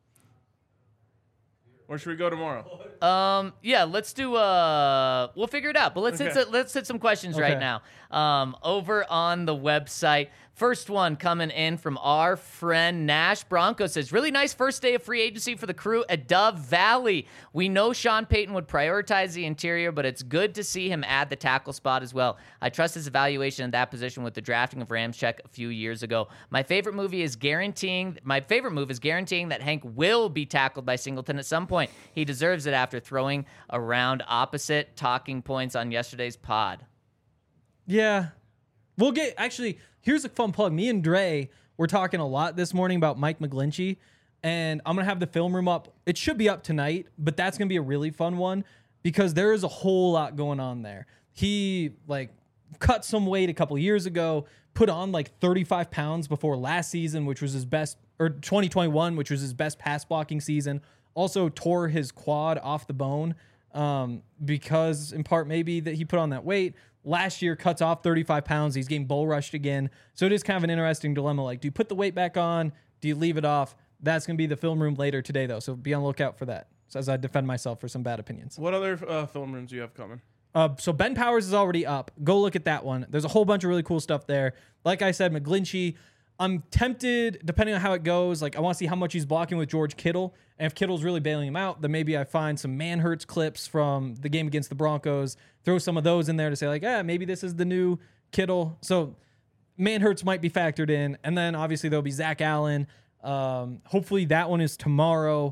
Or should we go tomorrow? Yeah, let's do we'll figure it out. But let's hit some questions right Okay. now. Over on the website. First one coming in from our friend Nash Bronco says, really nice first day of free agency for the crew at Dove Valley. We know Sean Payton would prioritize the interior, but it's good to see him add the tackle spot as well. I trust his evaluation in that position with the drafting of Ramczyk a few years ago. My favorite move is guaranteeing that Hank will be tackled by Singleton at some point. He deserves it after throwing around opposite talking points on yesterday's pod. Yeah. We'll get, actually, here's a fun plug. Me and Dre were talking a lot this morning about Mike McGlinchey, and I'm going to have the film room up. It should be up tonight, but that's going to be a really fun one because there is a whole lot going on there. He, cut some weight a couple years ago, put on, 35 pounds before last season, which was his best, or 2021, which was his best pass blocking season. Also tore his quad off the bone because, in part, maybe that he put on that weight. Last year, cuts off 35 pounds. He's getting bull rushed again. So it is kind of an interesting dilemma. Do you put the weight back on? Do you leave it off? That's going to be the film room later today, though. So be on the lookout for that. So as I defend myself for some bad opinions. What other film rooms do you have coming? So Ben Powers is already up. Go look at that one. There's a whole bunch of really cool stuff there. Like I said, McGlinchey, I'm tempted, depending on how it goes, I want to see how much he's blocking with George Kittle. And if Kittle's really bailing him out, then maybe I find some Manhurts clips from the game against the Broncos, throw some of those in there to say, maybe this is the new Kittle. So Manhurts might be factored in. And then obviously there'll be Zach Allen. Hopefully that one is tomorrow.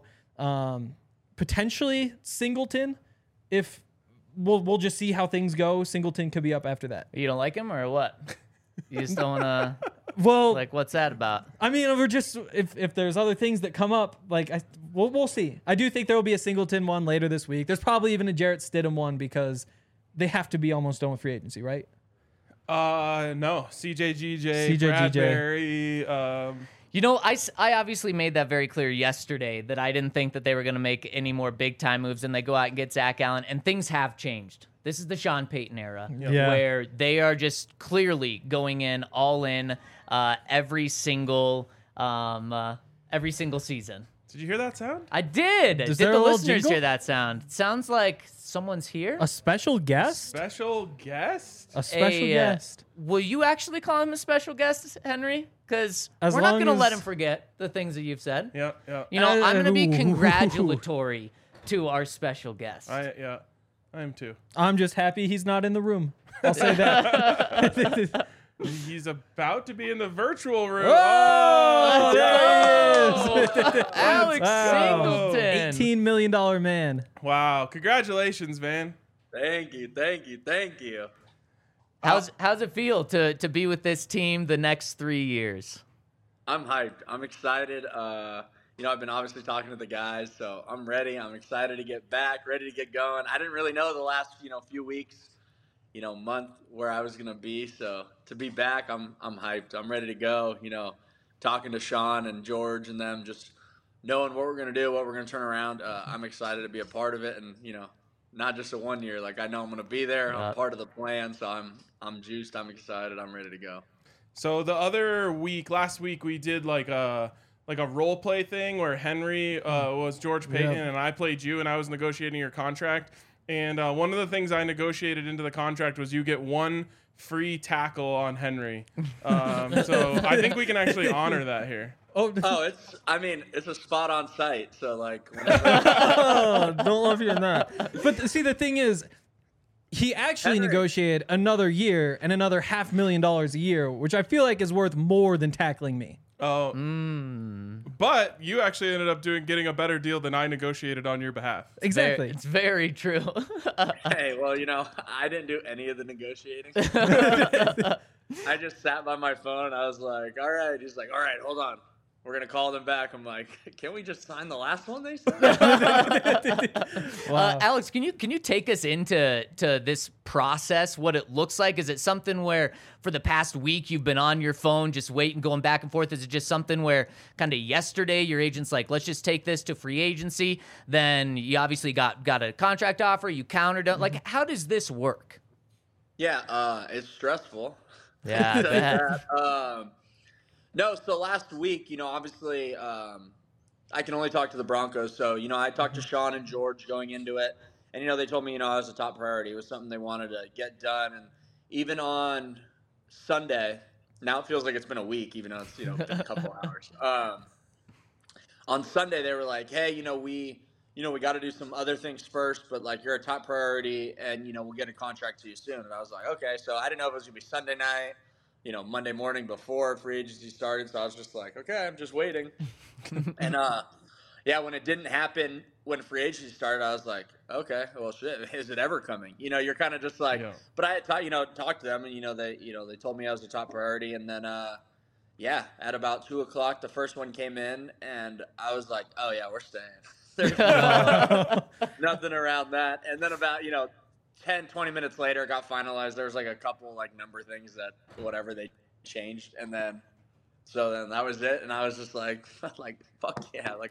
Potentially Singleton. If we'll just see how things go. Singleton could be up after that. You don't like him or what? You just don't want to... Well, what's that about? I mean, we're just if there's other things that come up, we'll see. I do think there will be a Singleton one later this week. There's probably even a Jarrett Stidham one because they have to be almost done with free agency, right? No. CJ Bradbury. I obviously made that very clear yesterday that I didn't think that they were going to make any more big time moves, and they go out and get Zach Allen, and things have changed. This is the Sean Payton era where they are just clearly going in all in every single season. Did you hear that sound? I did. Did there the a little listeners jingle? hear that sound? It sounds like someone's here. A special guest? Special guest? A special guest. Will you actually call him a special guest, Henry? Because As we're not long going to let as- him forget the things that you've said. Yeah. I'm going to be Ooh. congratulatory to our special guest. I am too. I'm just happy he's not in the room. I'll say that. He's about to be in the virtual room. Oh, there there he is. Alex Wow. Singleton. $18 million man. Wow. Congratulations, man. Thank you. How's it feel to be with this team the next 3 years? I'm hyped. I'm excited. I've been obviously talking to the guys, so I'm ready. I'm excited to get back, ready to get going. I didn't really know the last, few weeks, month where I was gonna be. So to be back, I'm hyped. I'm ready to go. Talking to Sean and George and them, just knowing what we're gonna do, what we're gonna turn around. I'm excited to be a part of it, and not just a 1 year. Like I know I'm gonna be there. I'm part of the plan, so I'm juiced. I'm excited. I'm ready to go. So the other week, last week, we did like a role play thing where Henry was George Payton and I played you, and I was negotiating your contract. And one of the things I negotiated into the contract was you get one free tackle on Henry. So I think we can actually honor that here. Oh, it's a spot on site. So like, whenever Don't love hearing that. But see, the thing is, he actually negotiated another year and another $500,000 a year, which I feel like is worth more than tackling me. Oh, but you actually ended up getting a better deal than I negotiated on your behalf. Exactly. It's very true. hey, well, I didn't do any of the negotiating. I just sat by my phone. I was like, all right. He's like, all right, hold on. We're going to call them back. I'm like, can we just sign the last one they said? Wow. Alex, can you take us into this process, what it looks like? Is it something where for the past week you've been on your phone just waiting, going back and forth? Is it just something where kind of yesterday your agent's like, let's just take this to free agency? Then you obviously got a contract offer, you countered it. Like, how does this work? Yeah, it's stressful. Yeah, I bet. No, so last week, obviously I can only talk to the Broncos. So, I talked to Sean and George going into it. And, they told me, I was a top priority. It was something they wanted to get done. And even on Sunday, now it feels like it's been a week, even though it's, been a couple hours. On Sunday, they were like, hey, we got to do some other things first, but, like, you're a top priority, and, we'll get a contract to you soon. And I was like, okay. So I didn't know if it was going to be Sunday night, Monday morning before free agency started. So I was just like, okay, I'm just waiting. And, when it didn't happen when free agency started, I was like, okay, well, shit, is it ever coming? You're kind of just like, but I had talked to them, and, they told me I was the top priority. And then, at about 2:00, the first one came in, and I was like, oh, yeah, we're staying. There's nothing around that. And then about, 10, 20 minutes later, it got finalized. There was like a couple like number things that whatever they changed. And then, so then that was it. And I was just like fuck yeah. Like,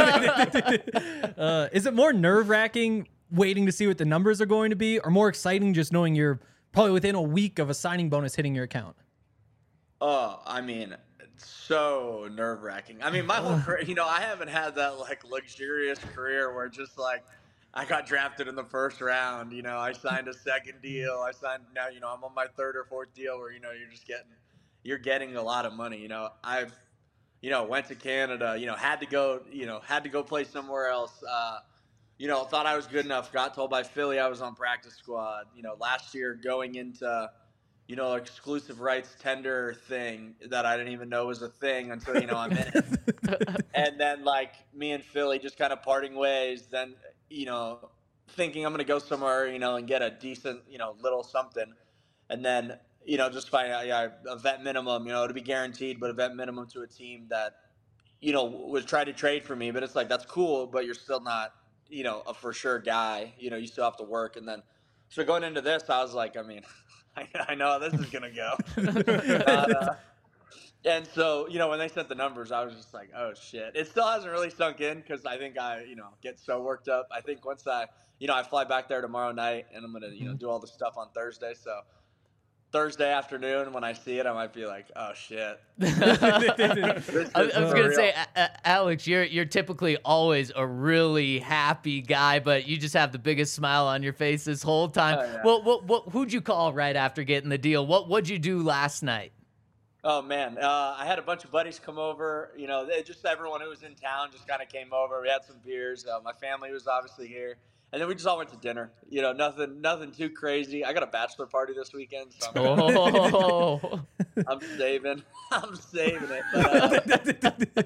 Is it more nerve wracking waiting to see what the numbers are going to be, or more exciting just knowing you're probably within a week of a signing bonus hitting your account? Oh, I mean, it's so nerve wracking. I mean, my whole career, I haven't had that like luxurious career where just like, I got drafted in the first round. I signed a second deal. Now, I'm on my third or fourth deal where, you're getting a lot of money. I've, went to Canada, had to go play somewhere else. Thought I was good enough. Got told by Philly I was on practice squad. Last year going into, exclusive rights tender thing that I didn't even know was a thing until, I'm in it. And then like me and Philly just kind of parting ways. Then, thinking I'm going to go somewhere, and get a decent, little something. And then, just find out, a vet minimum, to be guaranteed, but a vet minimum to a team that, was trying to trade for me. But it's like, that's cool, but you're still not, a for sure guy. You still have to work. And then, so going into this, I was like, I mean, I know how this is going to go. And so, when they sent the numbers, I was just like, oh, shit. It still hasn't really sunk in because I think I, get so worked up. I think once I fly back there tomorrow night and I'm going to, do all the stuff on Thursday. So Thursday afternoon when I see it, I might be like, oh, shit. I was going to say, Alex, you're typically always a really happy guy, but you just have the biggest smile on your face this whole time. Oh, yeah. Who'd you call right after getting the deal? What'd you do last night? Oh, man. I had a bunch of buddies come over. Just everyone who was in town just kind of came over. We had some beers. My family was obviously here. And then we just all went to dinner. Nothing too crazy. I got a bachelor party this weekend, so Oh, I'm saving. I'm saving it. But,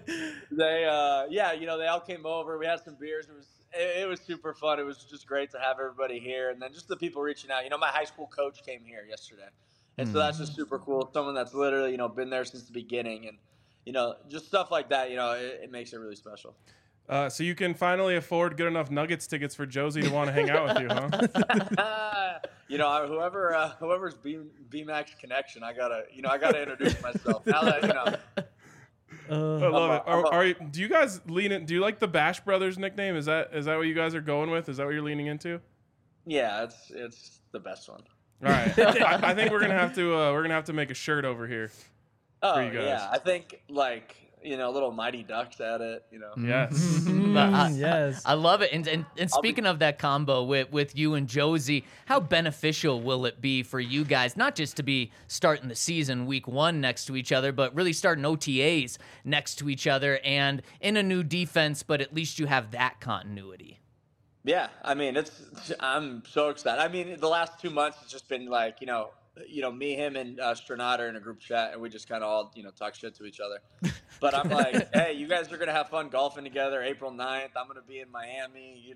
they all came over. We had some beers. It was super fun. It was just great to have everybody here, and then just the people reaching out. My high school coach came here yesterday, and so that's just super cool. Someone that's literally been there since the beginning, and just stuff like that. It makes it really special. So you can finally afford good enough Nuggets tickets for Josie to want to hang out with you, huh? Whoever's B-Max connection, I gotta introduce myself. Now that I love it. Do you guys lean in? Do you like the Bash Brothers nickname? Is that what you guys are going with? Is that what you're leaning into? Yeah, it's the best one. All right, I think we're gonna have to make a shirt over here. Oh you guys. Yeah, I think little Mighty Ducks at it. Yes. Yes. I love it. And speaking of that combo with you and Josie, how beneficial will it be for you guys, not just to be starting the season week 1 next to each other, but really starting OTAs next to each other and in a new defense, but at least you have that continuity. Yeah, I mean, I'm so excited. I mean, the last 2 months it's just been like, me, him, and Strenat are in a group chat, and we just kind of all, talk shit to each other. But I'm like, hey, you guys are going to have fun golfing together April 9th. I'm going to be in Miami,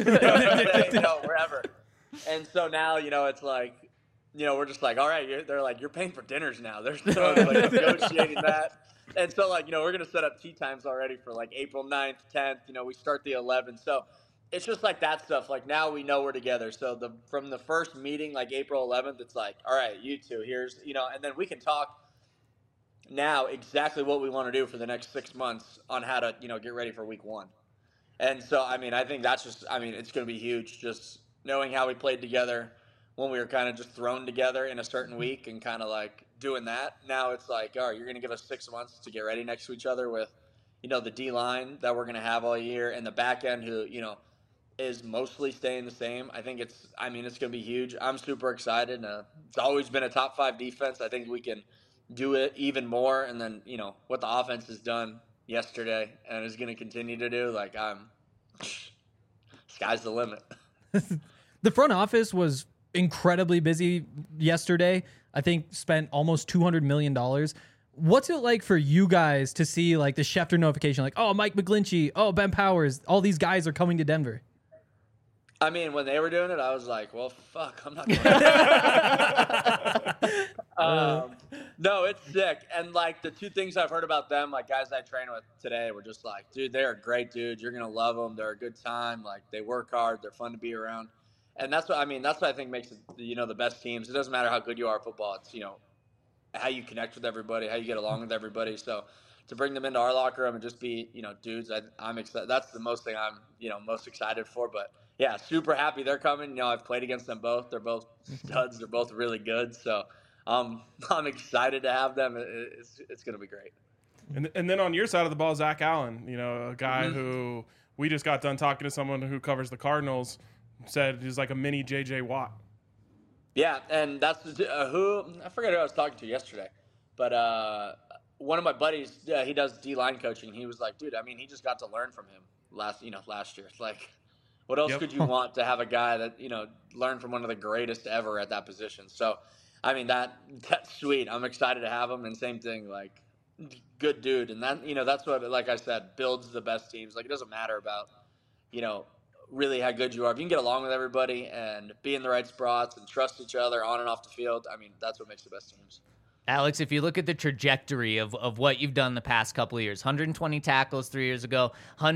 wherever. And so now, it's like, we're just like, all right, they're like, you're paying for dinners now. They're still like negotiating that. And so, like, we're going to set up tea times already for like April 9th, 10th. We start the 11th. So it's just like that stuff. Like now we know we're together. So from the first meeting, like April 11th, it's like, all right, you two, here's, and then we can talk now exactly what we want to do for the next 6 months on how to, get ready for week 1. And so, I mean, I think that's just, it's going to be huge. Just knowing how we played together when we were kind of just thrown together in a certain week and kind of like doing that. Now it's like, all right, you're going to give us 6 months to get ready next to each other with, the D line that we're going to have all year and the back end who, is mostly staying the same. I think it's going to be huge. I'm super excited. It's always been a top 5 defense. I think we can do it even more. And then, what the offense has done yesterday and is going to continue to do, like sky's the limit. The front office was incredibly busy yesterday. I think spent almost $200 million. What's it like for you guys to see like the Schefter notification? Like, oh, Mike McGlinchey, oh, Ben Powers, all these guys are coming to Denver. I mean, when they were doing it, I was like, well, fuck, I'm not going no, it's sick. And, like, the 2 things I've heard about them, like, guys I train with today were just like, dude, they're great dudes. You're going to love them. They're a good time. Like, they work hard. They're fun to be around. And that's what I think makes it, the best teams. It doesn't matter how good you are at football. It's, how you connect with everybody, how you get along with everybody. So to bring them into our locker room and just be, dudes, I'm excited. That's the most thing I'm, most excited for. But, yeah, super happy they're coming. I've played against them both. They're both studs. They're both really good. So I'm excited to have them. It's going to be great. And then on your side of the ball, Zach Allen, a guy who we just got done talking to someone who covers the Cardinals, said he's like a mini J.J. Watt. Yeah, and that's who I forget who I was talking to yesterday, but one of my buddies, he does D-line coaching. He was like, dude, he just got to learn from him last year. Like, what else could you want to have a guy that, learn from one of the greatest ever at that position? So, that's sweet. I'm excited to have him. And same thing, like, good dude. And that, that's what, like I said, builds the best teams. Like, it doesn't matter about, really how good you are. If you can get along with everybody and be in the right spots and trust each other on and off the field, that's what makes the best teams. Alex, if you look at the trajectory of what you've done the past couple of years, 120 tackles 3 years ago,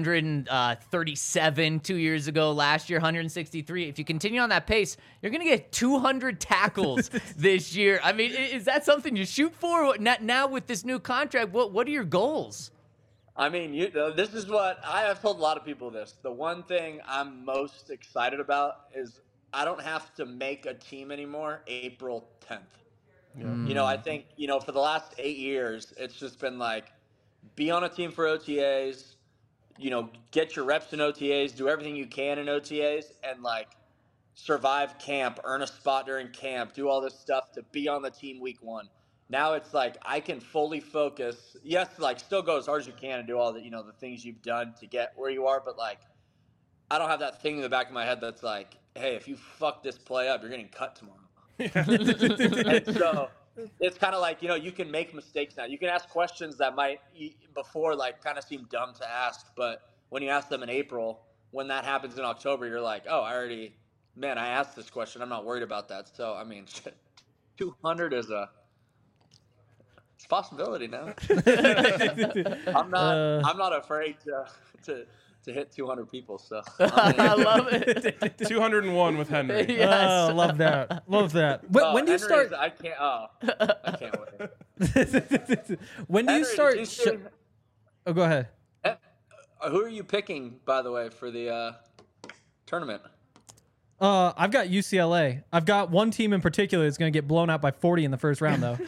137 2 years ago, last year 163. If you continue on that pace, you're going to get 200 tackles this year. Is that something you shoot for? Now with this new contract, what are your goals? This is what I have told a lot of people this. The one thing I'm most excited about is I don't have to make a team anymore April 10th. Yeah. I think, for the last 8 years, it's just been like, be on a team for OTAs, get your reps in OTAs, do everything you can in OTAs, and like survive camp, earn a spot during camp, do all this stuff to be on the team week 1. Now it's like I can fully focus. Yes, like still go as hard as you can and do all the, the things you've done to get where you are, but like I don't have that thing in the back of my head that's like, hey, if you fuck this play up, you're getting cut tomorrow. And so it's kind of like, you can make mistakes now. You can ask questions that might before like kind of seem dumb to ask, but when you ask them in April, when that happens in October, you're like, oh, I asked this question. I'm not worried about that. So, I mean, 200 is it's a possibility now. I'm not afraid to hit 200 people. So I love it. 201 with Henry. Yes. Oh, love that. Love that. When do you start? I can't wait. When do you Henry, start? Oh, go ahead. Who are you picking, by the way, for the tournament? I've got UCLA. I've got one team in particular that's going to get blown out by 40 in the first round, though.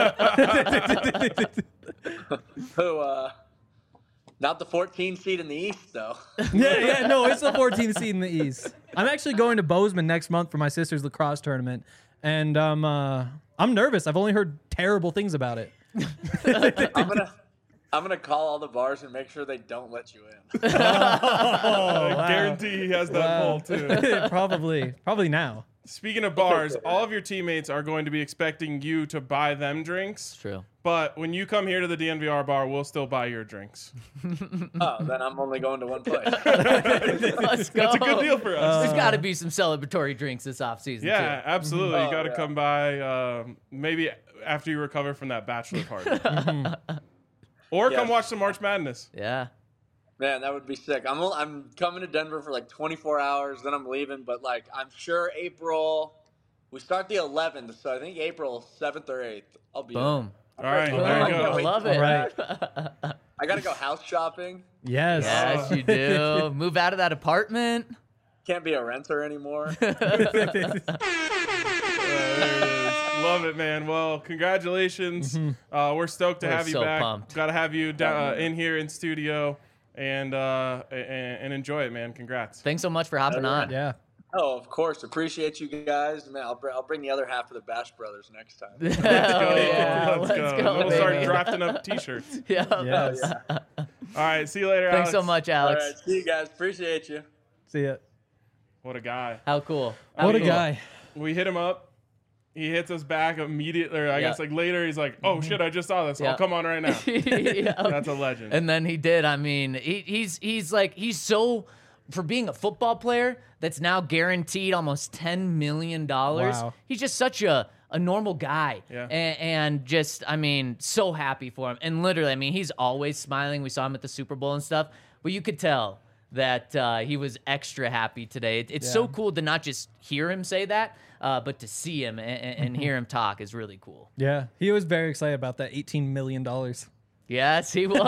Who? Not the 14 seed in the East, though. Yeah, no, it's the 14th seed in the East. I'm actually going to Bozeman next month for my sister's lacrosse tournament, and I'm nervous. I've only heard terrible things about it. I'm gonna call all the bars and make sure they don't let you in. I guarantee he has that poll too. Probably now. Speaking of bars, all of your teammates are going to be expecting you to buy them drinks. True. But when you come here to the DNVR bar, we'll still buy your drinks. Oh, then I'm only going to one place. Let's go. That's a good deal for us. There's got to be some celebratory drinks this offseason, Yeah, too. absolutely. You got to yeah. come by maybe after you recover from that bachelor party. Or come Yes. watch some March Madness. Yeah. Man, that would be sick. I'm coming to Denver for like 24 hours, then I'm leaving. But like, I'm sure we start the 11th, so I think April 7th or 8th. I'll be Boom. All right, Boom. there you I go. love it. All right. I gotta go house shopping. Yes. Yes, you do. Move out of that apartment. Can't be a renter anymore. Love it, man. Well, congratulations. We're stoked to We're have you so back. pumped. Got to have you in here in studio and enjoy it, man. Congrats. Thanks so much for hopping on. Yeah. Oh, of course. Appreciate you guys. Man, I'll bring the other half of the Bash Brothers next time. Let's go. Yeah, Let's go. go, We'll start baby. drafting up T-shirts. Yeah. Yes. All right. See you later, Thanks so Alex. much, All Alex. right, see you guys. Appreciate you. See ya. What a guy. How cool. What a cool. guy. We hit him up. He hits us back immediately. Or I Yeah. guess like later, he's like, "Oh shit, I just saw this. Yeah. I'll come on right now." Yeah. That's a legend. And then he did. I mean, he's so, for being a football player that's now guaranteed almost $10 million. Wow. He's just such a normal guy. Yeah. And just, I mean, so happy for him. And literally, I mean, he's always smiling. We saw him at the Super Bowl and stuff, but you could tell that he was extra happy today. It's so cool to not just hear him say that, but to see him and hear him talk is really cool. Yeah. He was very excited about that $18 million. Yes, he was.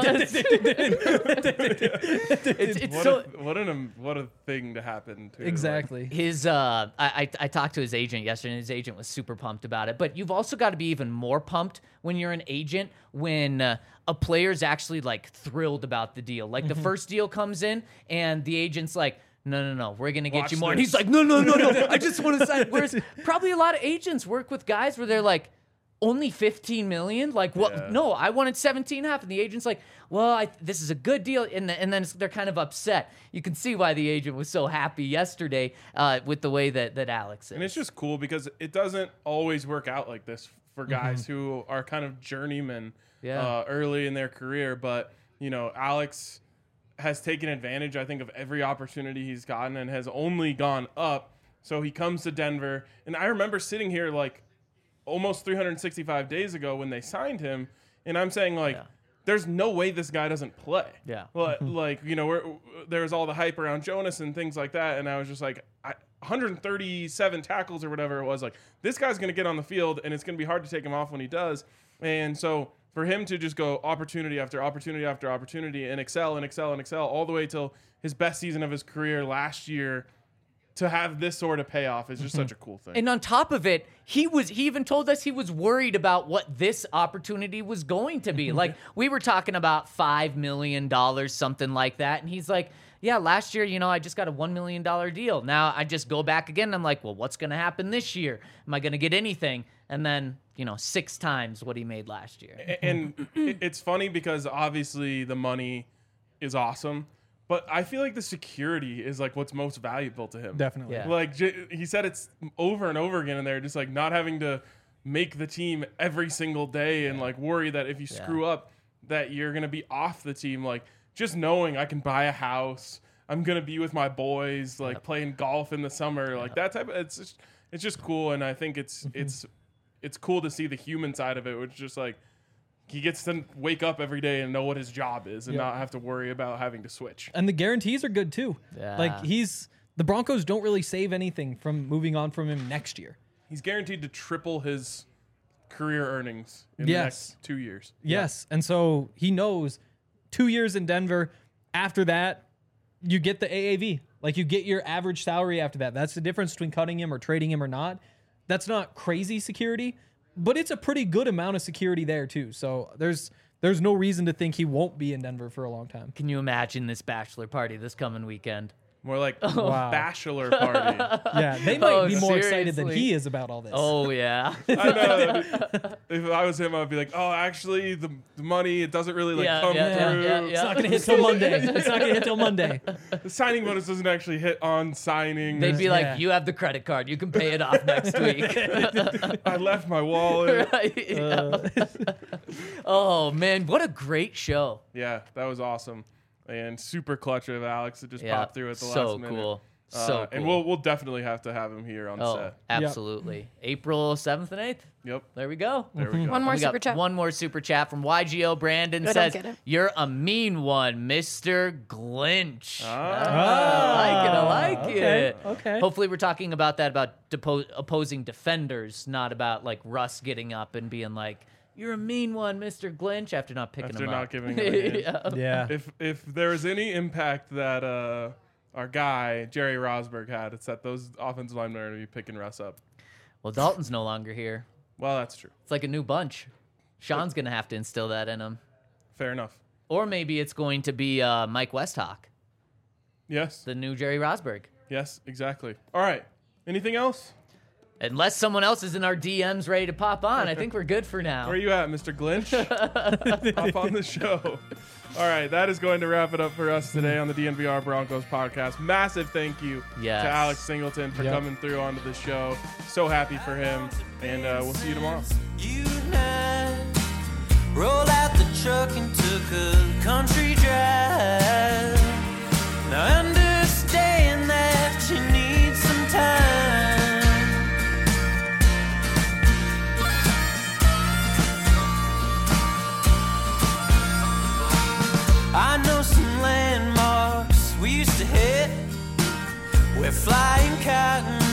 it's so. What a thing to happen to. Exactly. His I talked to his agent yesterday, and his agent was super pumped about it. But you've also got to be even more pumped when you're an agent when a player's actually like thrilled about the deal. Like the first deal comes in, and the agent's like, no, we're gonna get Watch you more. And this. he's like, no, I just want to sign. Whereas probably a lot of agents work with guys where they're like, only 15 million? Like, what? Yeah. No, I wanted 17.5. And the agent's like, well, this is a good deal. And then they're kind of upset. You can see why the agent was so happy yesterday with the way that Alex is. And it's just cool because it doesn't always work out like this for guys who are kind of journeymen early in their career. But, Alex has taken advantage, I think, of every opportunity he's gotten and has only gone up. So he comes to Denver. And I remember sitting here like almost 365 days ago when they signed him. And I'm saying like, there's no way this guy doesn't play. Yeah. Like, there was all the hype around Jonas and things like that. And I was just like, 137 tackles or whatever it was. Like, this guy's going to get on the field and it's going to be hard to take him off when he does. And so for him to just go opportunity after opportunity after opportunity and excel all the way till his best season of his career last year, to have this sort of payoff is just such a cool thing. And on top of it, he even told us he was worried about what this opportunity was going to be. Like, we were talking about $5 million, something like that. And he's like, yeah, last year, I just got a $1 million deal. Now I just go back again. And I'm like, well, what's going to happen this year? Am I going to get anything? And then, 6 times what he made last year. And it's funny because obviously the money is awesome, but I feel like the security is like what's most valuable to him. Definitely. Yeah. Like he said, it's over and over again in there, just like not having to make the team every single day and like worry that if you screw up that you're gonna be off the team. Like just knowing I can buy a house, I'm gonna be with my boys, like playing golf in the summer, like that type of. It's just cool, and I think it's cool to see the human side of it, which is just like he gets to wake up every day and know what his job is and not have to worry about having to switch. And the guarantees are good too. Yeah. Like the Broncos don't really save anything from moving on from him next year. He's guaranteed to triple his career earnings in the next 2 years. Yes. And so he knows 2 years in Denver. After that, you get the AAV. Like you get your average salary after that. That's the difference between cutting him or trading him or not. That's not crazy security, but it's a pretty good amount of security there too. So there's no reason to think he won't be in Denver for a long time. Can you imagine this bachelor party this coming weekend? More like Wow. bachelor party. Yeah, they might be more excited than seriously? he is about all this. Oh yeah. I know. If I was him, I'd be like, oh, actually, the money, it doesn't really like come through. It's not gonna hit till Monday. It's not gonna hit till Monday. The signing bonus doesn't actually hit on signing. They'd be like, Yeah. you have the credit card. You can pay it off next week. I left my wallet. Right? Yeah. Oh man, what a great show. Yeah, that was awesome. And super clutch of Alex to just Yeah, pop through at the so last minute. cool. So cool. And we'll definitely have to have him here on Oh, set. absolutely. April 7th and 8th. Yep. There we go. There we go. One more We got super chat. one more super chat from YGO Brandon I don't says, get it. "You're a mean one, Mr. Glinch." Ah. I like okay, it. okay. Hopefully, we're talking about that about opposing defenders, not about like Russ getting up and being like, "You're a mean one, Mr. Glinch," after not picking After him not up. giving him a hint. Yeah. Yeah. If there was any impact that our guy, Jerry Rosberg, had, it's that those offensive linemen are going to be picking Russ up. Well, Dalton's no longer here. Well, that's true. It's like a new bunch. Sean's gonna have to instill that in him, Fair enough. or maybe it's going to be Mike Westhawk, Yes. the new Jerry Rosberg. Yes, exactly. All right. Anything else? Unless someone else is in our DMs ready to pop on, I think we're good for now. Where are you at, Mr. Glinch? Hop on the show. All right, that is going to wrap it up for us today on the DNVR Broncos podcast. Massive thank you Yes. to Alex Singleton for coming through onto the show. So happy for him, and we'll see you tomorrow. You and I rolled out the truck and took a country drive. Now I understand that you need some time. I know some landmarks we used to hit. We're flying cotton